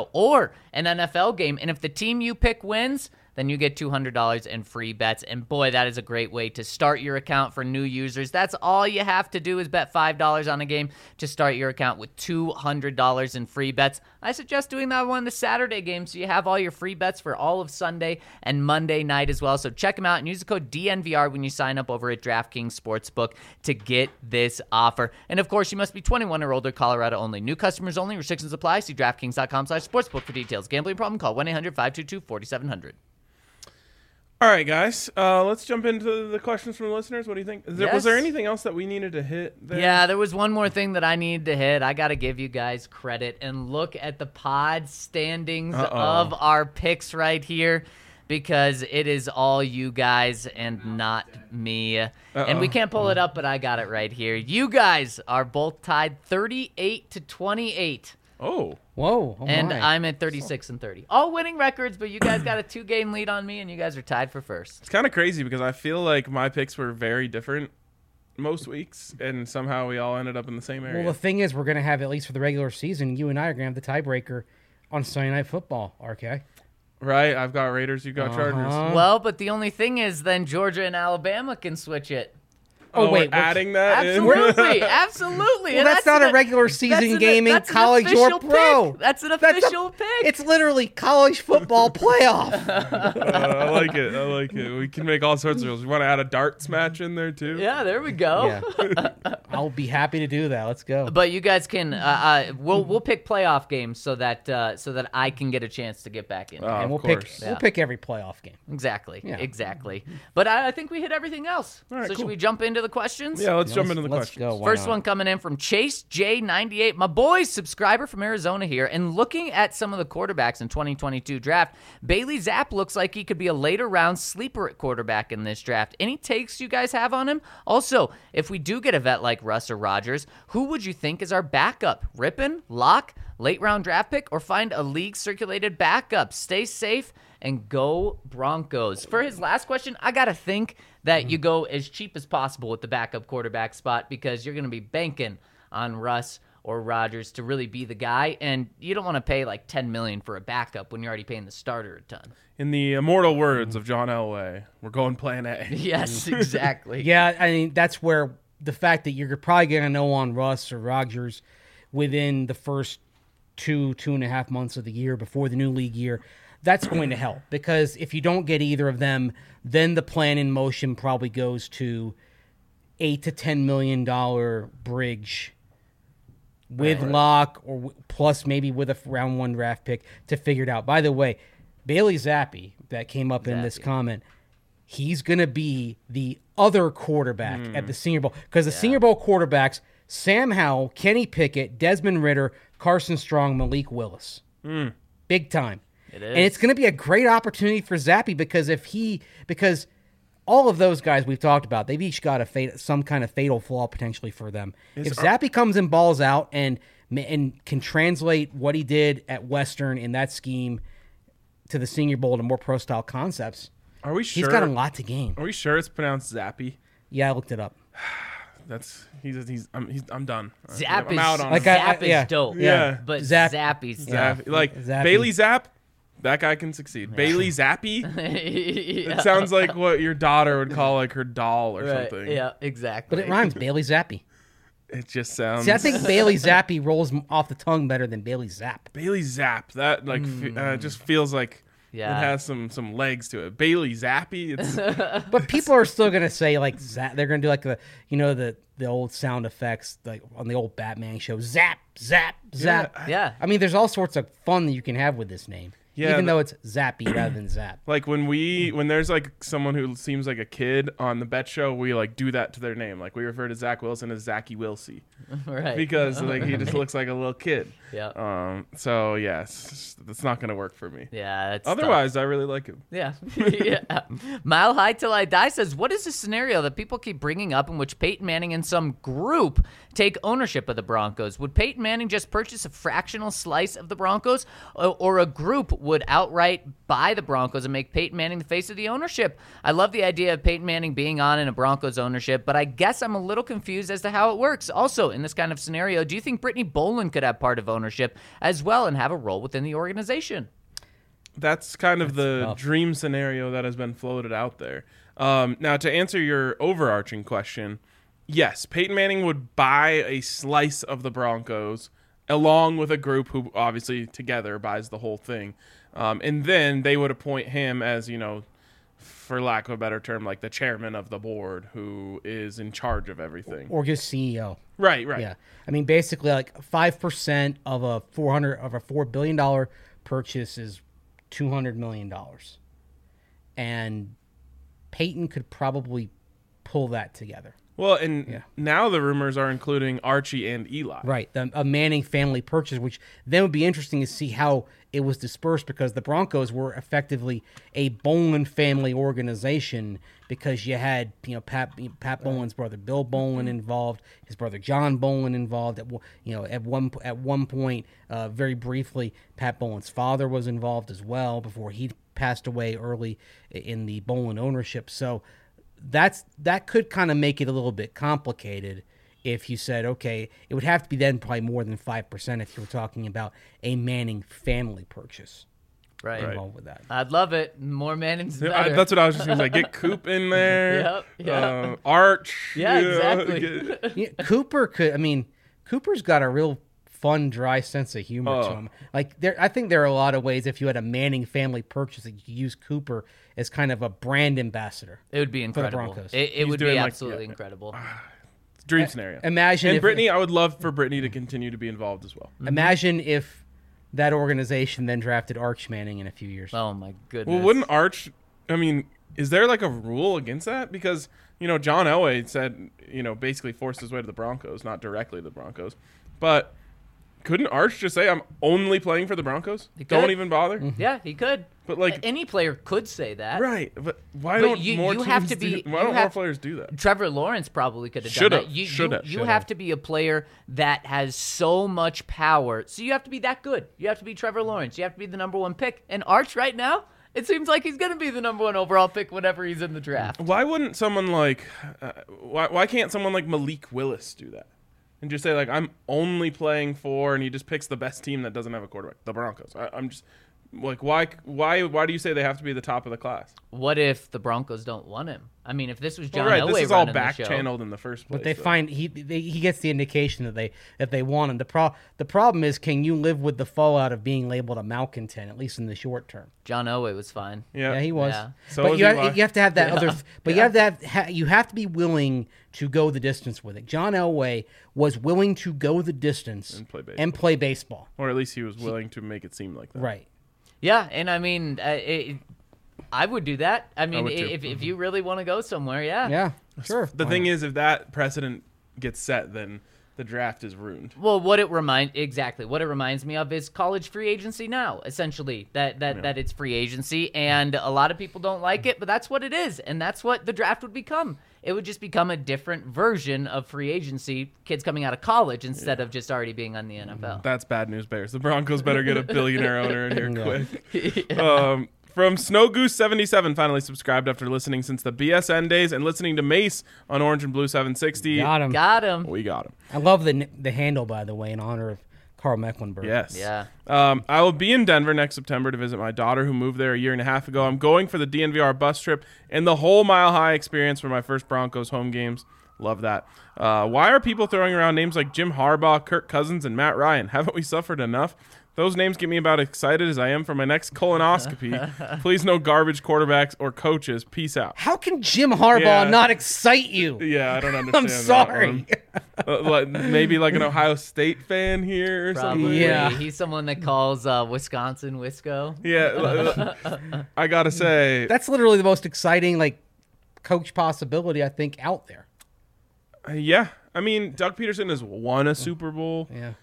NFL game. And if the team you pick wins, then you get $200 in free bets. And boy, that is a great way to start your account for new users. That's all you have to do is bet $5 on a game to start your account with $200 in free bets. I suggest doing that one the Saturday game so you have all your free bets for all of Sunday and Monday night as well. So check them out and use the code DNVR when you sign up over at DraftKings Sportsbook to get this offer. And of course, you must be 21 or older, Colorado only. New customers only. Restrictions apply. See DraftKings.com/sportsbook for details. Gambling problem? Call 1-800-522-4700. All right, guys, let's jump into the questions from the listeners. What do you think? Was Yes. there anything else that we needed to hit there? Yeah, there was one more thing that I needed to hit. I got to give you guys credit and look at the pod standings of our picks right here because it is all you guys and not me. And we can't pull it up, but I got it right here. You guys are both tied 38-28. Oh. Whoa. Oh And my. I'm at 36 and 30. All winning records, but you guys got a 2-game lead on me, and you guys are tied for first. It's kind of crazy because I feel like my picks were very different most weeks, and somehow we all ended up in the same area. Well, the thing is, we're going to have, at least for the regular season, you and I are going to have the tiebreaker on Sunday Night Football, RK. Right? I've got Raiders, you got Chargers. Well, but the only thing is then Georgia and Alabama can switch it. Oh, we're wait. adding that in? Absolutely, absolutely. Well, And that's not a regular that's season an- game in that's an college or official pro. pick. That's an That's a- official pick. It's literally college football playoff. I like it. I like it. We can make all sorts of rules. We want to add a darts match in there, too? Yeah, there we go. Yeah. I'll be happy to do that. Let's go. But you guys can we'll pick playoff games so that I can get a chance to get back in. And Of we'll course. pick every playoff game. Exactly. Yeah. Exactly. But I think we hit everything else. right, So cool. should we jump into the questions? Yeah, let's jump into the Let's questions. go. Why First not? one coming in from Chase J98, my boy subscriber from Arizona here. And looking at some of the quarterbacks in 2022 draft, Bailey Zapp looks like he could be a later round sleeper at quarterback in this draft. Any takes you guys have on him? Also, if we do get a vet like Russ or Rodgers, who would you think is our backup? Rippin, Lock, late round draft pick, or find a league circulated backup? Stay safe and go Broncos. For his last question, I got to think that you go as cheap as possible with the backup quarterback spot because you're going to be banking on Russ or Rodgers to really be the guy, and you don't want to pay like $10 million for a backup when you're already paying the starter a ton. In the immortal words of John Elway, we're going plan A. Yes, exactly. Yeah, I mean, that's where the fact that you're probably going to know on Russ or Rodgers within the first 2.5 months of the year before the new league year, that's going to help. Because if you don't get either of them, then the plan in motion probably goes to $8 to $10 million bridge with Locke or plus maybe with a round one draft pick to figure it out. By the way, Bailey Zappi, that came up in this comment, he's going to be the other quarterback at the Senior Bowl. Because the Senior Bowl quarterbacks, Sam Howell, Kenny Pickett, Desmond Ridder, Carson Strong, Malik Willis. Big time. It is. And it's going to be a great opportunity for Zappi because all of those guys we've talked about, they've each got some kind of fatal flaw potentially for them. If Zappy comes and balls out and can translate what he did at Western in that scheme to the Senior Bowl to more pro-style concepts, Are we sure? he's got a lot to gain. Are we sure it's pronounced Zappy? Yeah, I looked it up. I'm done. Zap I'm is, out on Like him. Zap is yeah. dope. Yeah. But Zap- Zappy's Zappy. Like Zappy. Bailey Zapp, that guy can succeed. Bailey Zappy. Yeah. It sounds like what your daughter would call like her doll or Right. something. Yeah, exactly. But it rhymes, Bailey Zappy. It just sounds. See, I think Bailey Zappy rolls off the tongue better than Bailey Zapp. Bailey Zapp. That like just feels like Yeah. it has some legs to it. Bailey Zappy. It's But people are still gonna say like they're gonna do like the old sound effects like on the old Batman show, zap, zap, zap. Yeah. I mean, there's all sorts of fun that you can have with this name, Yeah, even though it's Zappy rather than Zap. like when there's like someone who seems like a kid on the Bet Show, we like do that to their name. Like we refer to Zach Wilson as Zachy Wilsey Right. because like he just looks like a little kid. Yeah. So yes, that's not gonna work for me. Yeah. That's Otherwise, I really like him. Yeah. Yeah. Mile High Till I Die says, what is the scenario that people keep bringing up in which Peyton Manning and some group take ownership of the Broncos? Would Peyton Manning just purchase a fractional slice of the Broncos, or a group would outright buy the Broncos and make Peyton Manning the face of the ownership? I love the idea of Peyton Manning being on in a Broncos ownership, but I guess I'm a little confused as to how it works. Also, in this kind of scenario, do you think Brittany Boland could have part of ownership as well and have a role within the organization? That's kind of the tough. dream scenario that has been floated out there. Now, to answer your overarching question, yes, Peyton Manning would buy a slice of the Broncos along with a group who obviously together buys the whole thing. And then they would appoint him as, for lack of a better term, like the chairman of the board who is in charge of everything. Or just CEO. Right. Yeah, I mean, basically, like 5% of a $4 billion purchase is $200 million, and Peyton could probably pull that together. Well, and now the rumors are including Archie and Eli. Right, a Manning family purchase, which then would be interesting to see how it was dispersed, because the Broncos were effectively a Bolin family organization, because you had Pat Bolin's brother Bill Bolin involved, his brother John Bolin involved. At one point, very briefly, Pat Bolin's father was involved as well before he passed away early in the Bolin ownership. So that could kind of make it a little bit complicated if you said, okay, it would have to be then probably more than 5% if you were talking about a Manning family purchase Right. involved with that. I'd love it. More Manning's Yeah, better. that's what I was just going to say. Get Coop in there. Yep. Arch. Yeah, exactly. Yeah, Cooper's got a real fun, dry sense of humor to him. Like I think there are a lot of ways if you had a Manning family purchase that you could use Cooper as kind of a brand ambassador. It would be incredible. Broncos. It would be doing, like, absolutely incredible. Dream scenario. Imagine And if Brittany, I would love for Brittany to continue to be involved as well. Imagine if that organization then drafted Arch Manning in a few years. Oh my goodness. Well, wouldn't Arch? I mean, is there like a rule against that? Because John Elway said basically forced his way to the Broncos, not directly to the Broncos, but couldn't Arch just say, "I'm only playing for the Broncos"? He could. Don't even bother. Yeah, he could. But like, Any player could say that. right? But why But don't you- more you teams have to be- why you don't more have- players do that? Trevor Lawrence probably could have done Should've. that. You Should've. have to be a player that has so much power. So you have to be that good. You have to be Trevor Lawrence. You have to be the number one pick. And Arch right now, it seems like he's going to be the number one overall pick whenever he's in the draft. Why wouldn't someone like why can't someone like Malik Willis do that and just say like, I'm only playing for, and he just picks the best team that doesn't have a quarterback, the Broncos? I'm just like, why do you say they have to be the top of the class? What if the Broncos don't want him? I mean, if this was John Well, right, Elway this is all running the back show, channeled in the first place. But they so. find he gets the indication that they want him. The problem is, can you live with the fallout of being labeled a malcontent, at least in the short term? John Elway was fine. Yeah, Yeah, he was. Yeah. So but was you Eli. have to have that Yeah. other. But Yeah. you have to be willing to go the distance with it. John Elway was willing to go the distance And play baseball. baseball. Or at least he was willing to make it seem like that. Right. Yeah, and I mean, I would do that. I mean, would too. if you really want to go somewhere, yeah. Yeah. Sure. The thing is, if that precedent gets set, then the draft is ruined. Well, what it reminds me of is college free agency now, essentially, that it's free agency, and a lot of people don't like it, but that's what it is, and that's what the draft would become. It would just become a different version of free agency, kids coming out of college instead of just already being on the NFL. That's bad news, Bears. The Broncos better get a billionaire owner in here quick. From Snow Goose 77, finally subscribed after listening since the BSN days and listening to Mace on Orange and Blue 760. Got him. Got him. We got him. I love the handle, by the way, in honor of Carl Mecklenburg. Yes. Yeah. I will be in Denver next September to visit my daughter who moved there a year and a half ago. I'm going for the DNVR bus trip and the whole Mile High experience for my first Broncos home games. Love that. Why are people throwing around names like Jim Harbaugh, Kirk Cousins, and Matt Ryan? Haven't we suffered enough? Those names get me about excited as I am for my next colonoscopy. Please no garbage quarterbacks or coaches. Peace out. How can Jim Harbaugh not excite you? Yeah, I don't understand. I'm sorry. That one. Maybe like an Ohio State fan here or something. Probably. Yeah. He's someone that calls Wisconsin Wisco. Yeah, I gotta say, That's literally the most exciting coach possibility I think out there. yeah. I mean, Doug Peterson has won a Super Bowl, Yeah.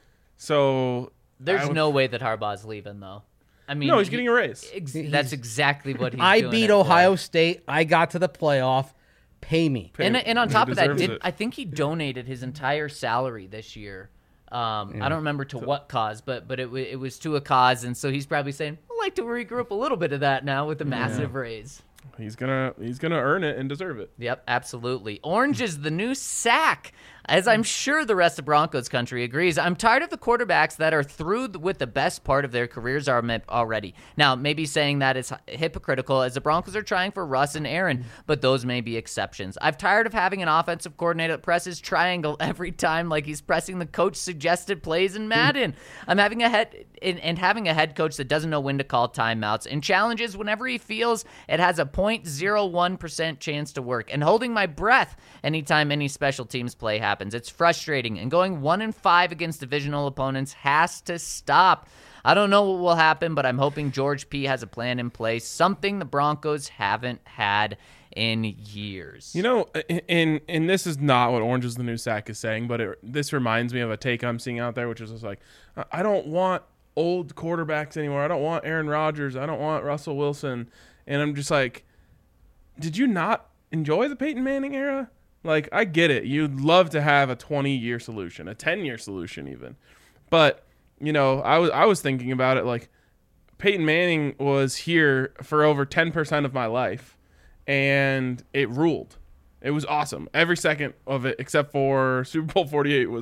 so There's no way that Harbaugh's leaving, though. I mean, no, he's getting a raise. That's exactly what he's I doing. beat it for. Ohio State. I got to the playoff. Pay me. And on He top of that, deserves it. I think he donated his entire salary this year. I don't remember to what cause, but it was to a cause, and so he's probably saying, I'd like to regroup a little bit of that now with a massive raise. He's gonna earn it and deserve it. Yep, absolutely. Orange is the new sack, as I'm sure the rest of Broncos country agrees. I'm tired of the quarterbacks that are through with the best part of their careers already. Now, maybe saying that is hypocritical, as the Broncos are trying for Russ and Aaron, but those may be exceptions. I'm tired of having an offensive coordinator that presses triangle every time like he's pressing the coach-suggested plays in Madden. I'm having a head coach that doesn't know when to call timeouts and challenges whenever he feels it has a 0.01% chance to work, and holding my breath anytime any special teams play happens. It's frustrating, and going 1-5 against divisional opponents has to stop. I don't know what will happen, but I'm hoping George P. has a plan in place, something the Broncos haven't had in years. You know, and this is not what Orange is the New Sack is saying, but this reminds me of a take I'm seeing out there, which is just like, I don't want old quarterbacks anymore. I don't want Aaron Rodgers. I don't want Russell Wilson. And I'm just like, did you not enjoy the Peyton Manning era? Like, I get it. You'd love to have a 20-year solution, a 10-year solution even. But, you know, I was thinking about it like Peyton Manning was here for over 10% of my life, and it ruled. It was awesome. Every second of it, except for Super Bowl 48, was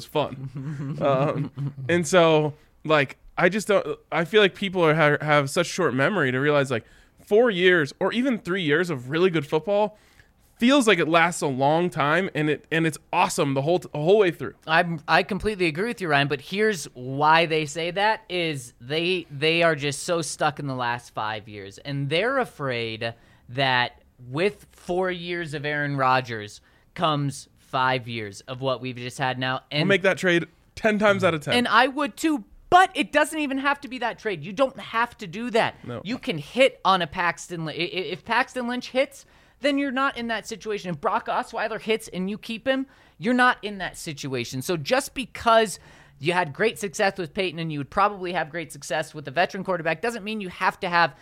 fun. And so, like, I just don't – I feel like people have such short memory to realize, like, 4 years or even 3 years of really good football feels like it lasts a long time, and it's awesome the whole way through. I completely agree with you, Ryan, but here's why they say that is they are just so stuck in the last 5 years, and they're afraid that with 4 years of Aaron Rodgers comes 5 years of what we've just had now. And I'll make that trade 10 times out of 10. And I would too. But it doesn't even have to be that trade. You don't have to do that. No. You can hit on a Paxton Lynch. If Paxton Lynch hits, then you're not in that situation. If Brock Osweiler hits and you keep him, you're not in that situation. So just because you had great success with Peyton and you would probably have great success with a veteran quarterback doesn't mean you have to have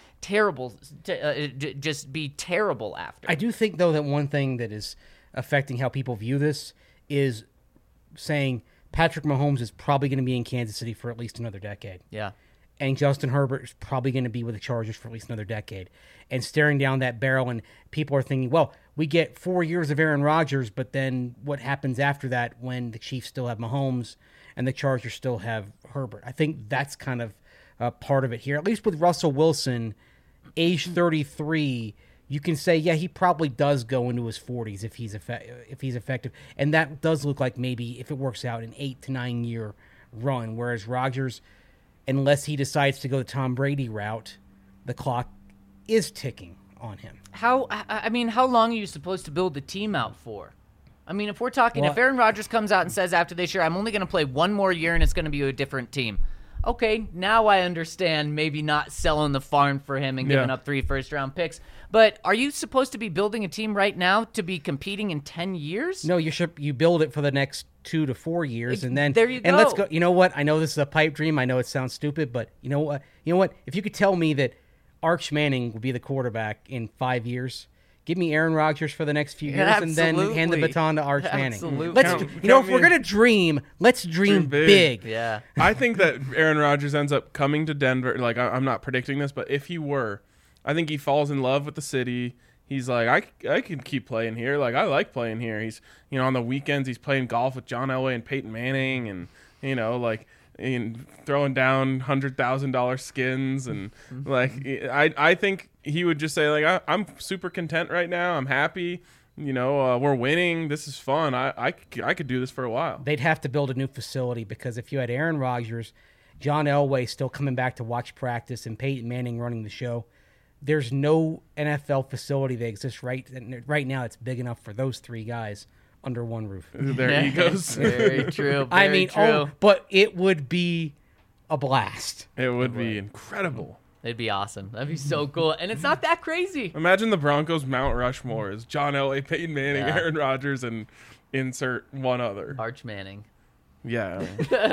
just be terrible after. I do think, though, that one thing that is affecting how people view this is saying Patrick Mahomes is probably going to be in Kansas City for at least another decade. Yeah. And Justin Herbert is probably going to be with the Chargers for at least another decade. And staring down that barrel, and people are thinking, well, we get 4 years of Aaron Rodgers, but then what happens after that when the Chiefs still have Mahomes and the Chargers still have Herbert? I think that's kind of part of it here. At least with Russell Wilson, age 33, you can say, yeah, he probably does go into his 40s if he's effective. And that does look like maybe, if it works out, an 8 to 9 year run. Whereas Rodgers, unless he decides to go the Tom Brady route, the clock is ticking on him. How long are you supposed to build the team out for? I mean, if we're talking, if Aaron Rodgers comes out and says after this year, I'm only going to play one more year and it's going to be a different team. okay, now I understand maybe not selling the farm for him and giving Yeah. up 3 first-round picks. But are you supposed to be building a team right now to be competing in 10 years? No, you build it for the next 2 to 4 years, and then There you and let's go. go. You know what? I know this is a pipe dream. I know it sounds stupid, but you know what? If you could tell me that Arch Manning would be the quarterback in 5 years, give me Aaron Rodgers for the next few years, and then hand the Absolutely. baton to Arch Manning. Absolutely. Let's, Count if me we're in. gonna dream, let's dream Dream big. big. Yeah. I think that Aaron Rodgers ends up coming to Denver. Like, I'm not predicting this, but if he were, I think he falls in love with the city. He's like, I can keep playing here. Like, I like playing here. He's, on the weekends, he's playing golf with John Elway and Peyton Manning, and and throwing down $100,000 skins, and I think he would just say, like, I'm super content right now. I'm happy. We're winning. This is fun. I could do this for a while. They'd have to build a new facility, because if you had Aaron Rodgers, John Elway still coming back to watch practice, and Peyton Manning running the show, there's no NFL facility that exists right now that's big enough for those 3 guys under one roof. Their egos. Very true. I very mean, true. but it would be a blast. It would be incredible. It'd be awesome. That'd be so cool. And it's not that crazy. Imagine the Broncos Mount Rushmore is John Elway, Peyton Manning, Yeah. Aaron Rodgers, and insert one other. Arch Manning. Yeah.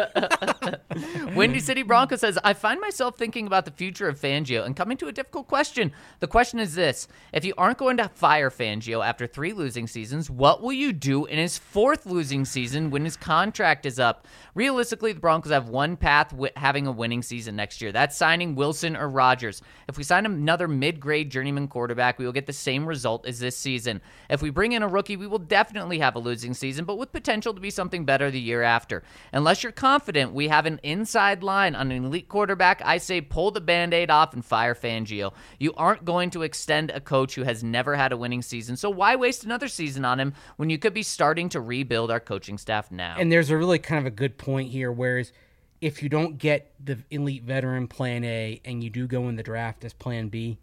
Windy City Bronco says, I find myself thinking about the future of Fangio and coming to a difficult question. The question is this: if you aren't going to fire Fangio after 3 losing seasons, what will you do in his 4th losing season when his contract is up? Realistically, the Broncos have one path having a winning season next year. That's signing Wilson or Rodgers. If we sign another mid-grade journeyman quarterback, we will get the same result as this season. If we bring in a rookie, we will definitely have a losing season, but with potential to be something better the year after. Unless you're confident we have an inside line on an elite quarterback, I say pull the Band-Aid off and fire Fangio. You aren't going to extend a coach who has never had a winning season, so why waste another season on him when you could be starting to rebuild our coaching staff now? And there's a really kind of a good point here, whereas if you don't get the elite veteran plan A and you do go in the draft as plan B,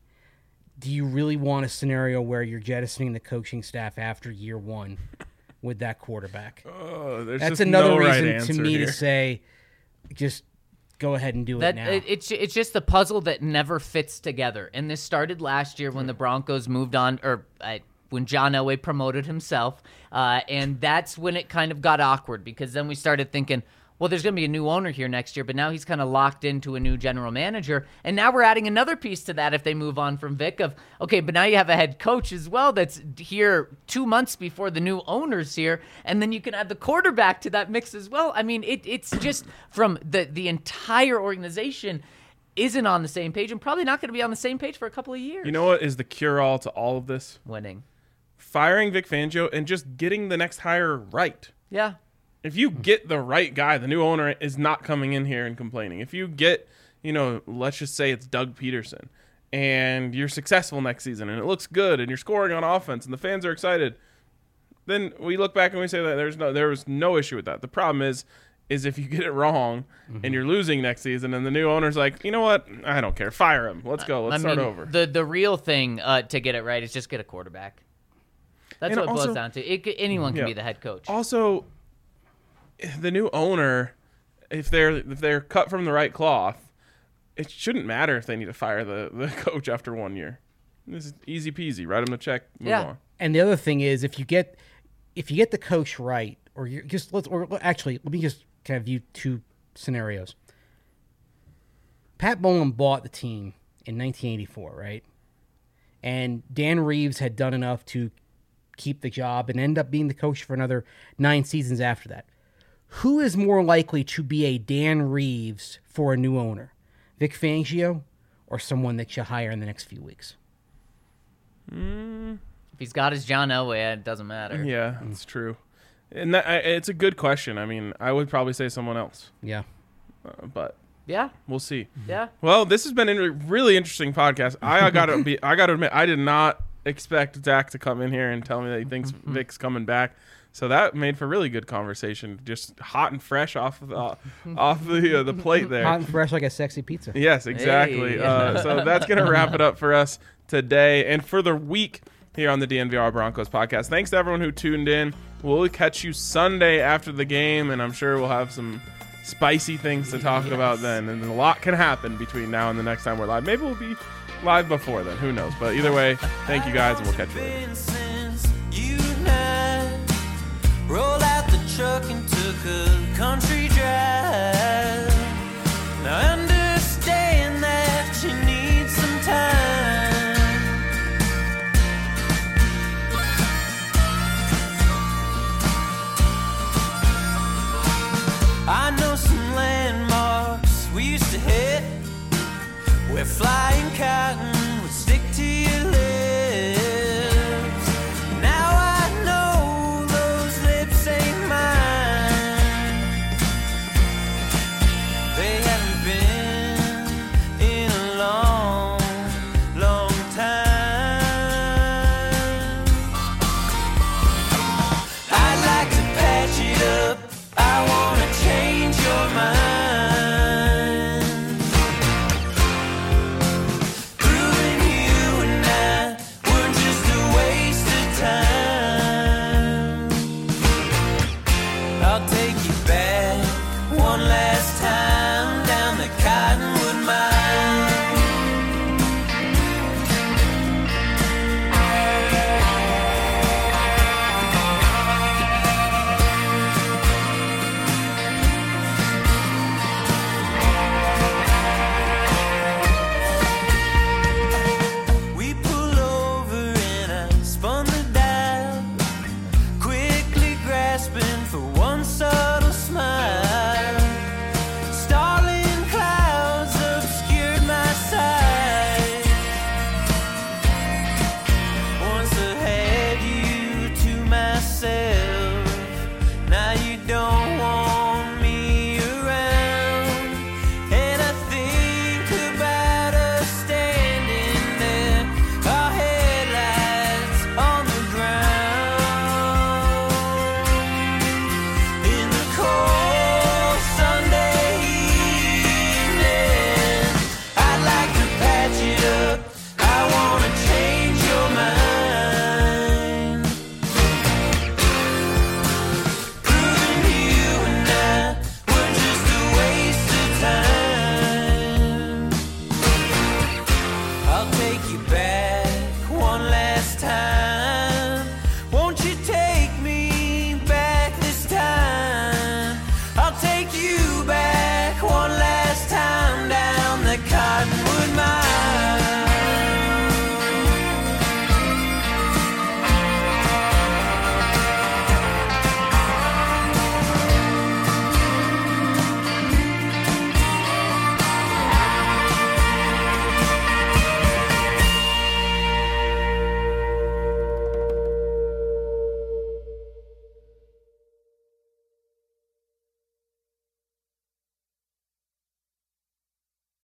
do you really want a scenario where you're jettisoning the coaching staff after year 1 with that quarterback? Oh, there's That's just another no reason right to answer me here. to say, just go ahead and do it now. It's just the puzzle that never fits together. And this started last year when the Broncos moved on, or when John Elway promoted himself. And that's when it kind of got awkward, because then we started thinking, well, there's going to be a new owner here next year, but now he's kind of locked into a new general manager. And now we're adding another piece to that if they move on from Vic of, okay, but now you have a head coach as well that's here 2 months before the new owner's here, and then you can add the quarterback to that mix as well. I mean, it's just from the entire organization isn't on the same page and probably not going to be on the same page for a couple of years. You know what is the cure-all to all of this? Winning. Firing Vic Fangio and just getting the next hire right. Yeah. If you get the right guy, the new owner is not coming in here and complaining. If you get, let's just say it's Doug Peterson, and you're successful next season, and it looks good, and you're scoring on offense, and the fans are excited, then we look back and we say that there was no issue with that. The problem is if you get it wrong and you're losing next season, and the new owner's like, you know what, I don't care, fire him. Let's go. Let's start over. The real thing to get it right is just get a quarterback. That's And what it also- boils down to. Anyone can Yeah. be the head coach. Also, the new owner, if they're cut from the right cloth, it shouldn't matter if they need to fire the coach after 1 year. This is easy peasy. Write them a check. Move Yeah. on. And the other thing is, if you get the coach right, or you just let me just kind of view 2 scenarios. Pat Bowlen bought the team in 1984, right? And Dan Reeves had done enough to keep the job and end up being the coach for another 9 seasons after that. Who is more likely to be a Dan Reeves for a new owner? Vic Fangio or someone that you hire in the next few weeks? If he's got his John Elway, it doesn't matter. Yeah, that's true. And it's a good question. I mean, I would probably say someone else, Yeah. but Yeah. we'll see. Yeah. Well, this has been a really interesting podcast. I got to admit, I did not expect Zach to come in here and tell me that he thinks Vic's coming back. So that made for really good conversation, just hot and fresh off the plate there. Hot and fresh like a sexy pizza. Yes, exactly. Hey. So that's going to wrap it up for us today and for the week here on the DNVR Broncos podcast. Thanks to everyone who tuned in. We'll catch you Sunday after the game, and I'm sure we'll have some spicy things to talk about then, and a lot can happen between now and the next time we're live. Maybe we'll be live before then. Who knows? But either way, thank you guys, and we'll catch you later. Since you and I rolled out the truck and took a country drive. Now I understand that you need some time. I know some landmarks we used to hit, where flying cotton would stick to your lips. Now I know those lips ain't mine. They haven't been in a long, long time. I'd like to patch it up. I wanna change your mind. Proving you and I weren't just a waste of time. I'll take you back one last time down the Cottonwood Mine. We pull over and I spun the dial, quickly grasping for one subtle smile. Starling clouds obscured my sight. Once I had you to myself, now you don't want me around. And I think about us standing there, our headlights on the ground. In the cold Sunday evening, I'd like to patch it up. I wanna change your mind. Proving you and I were just a waste of time. I'll take you back one last time. Won't you take me back this time? I'll take you back one last time down the Cottonwood Mine.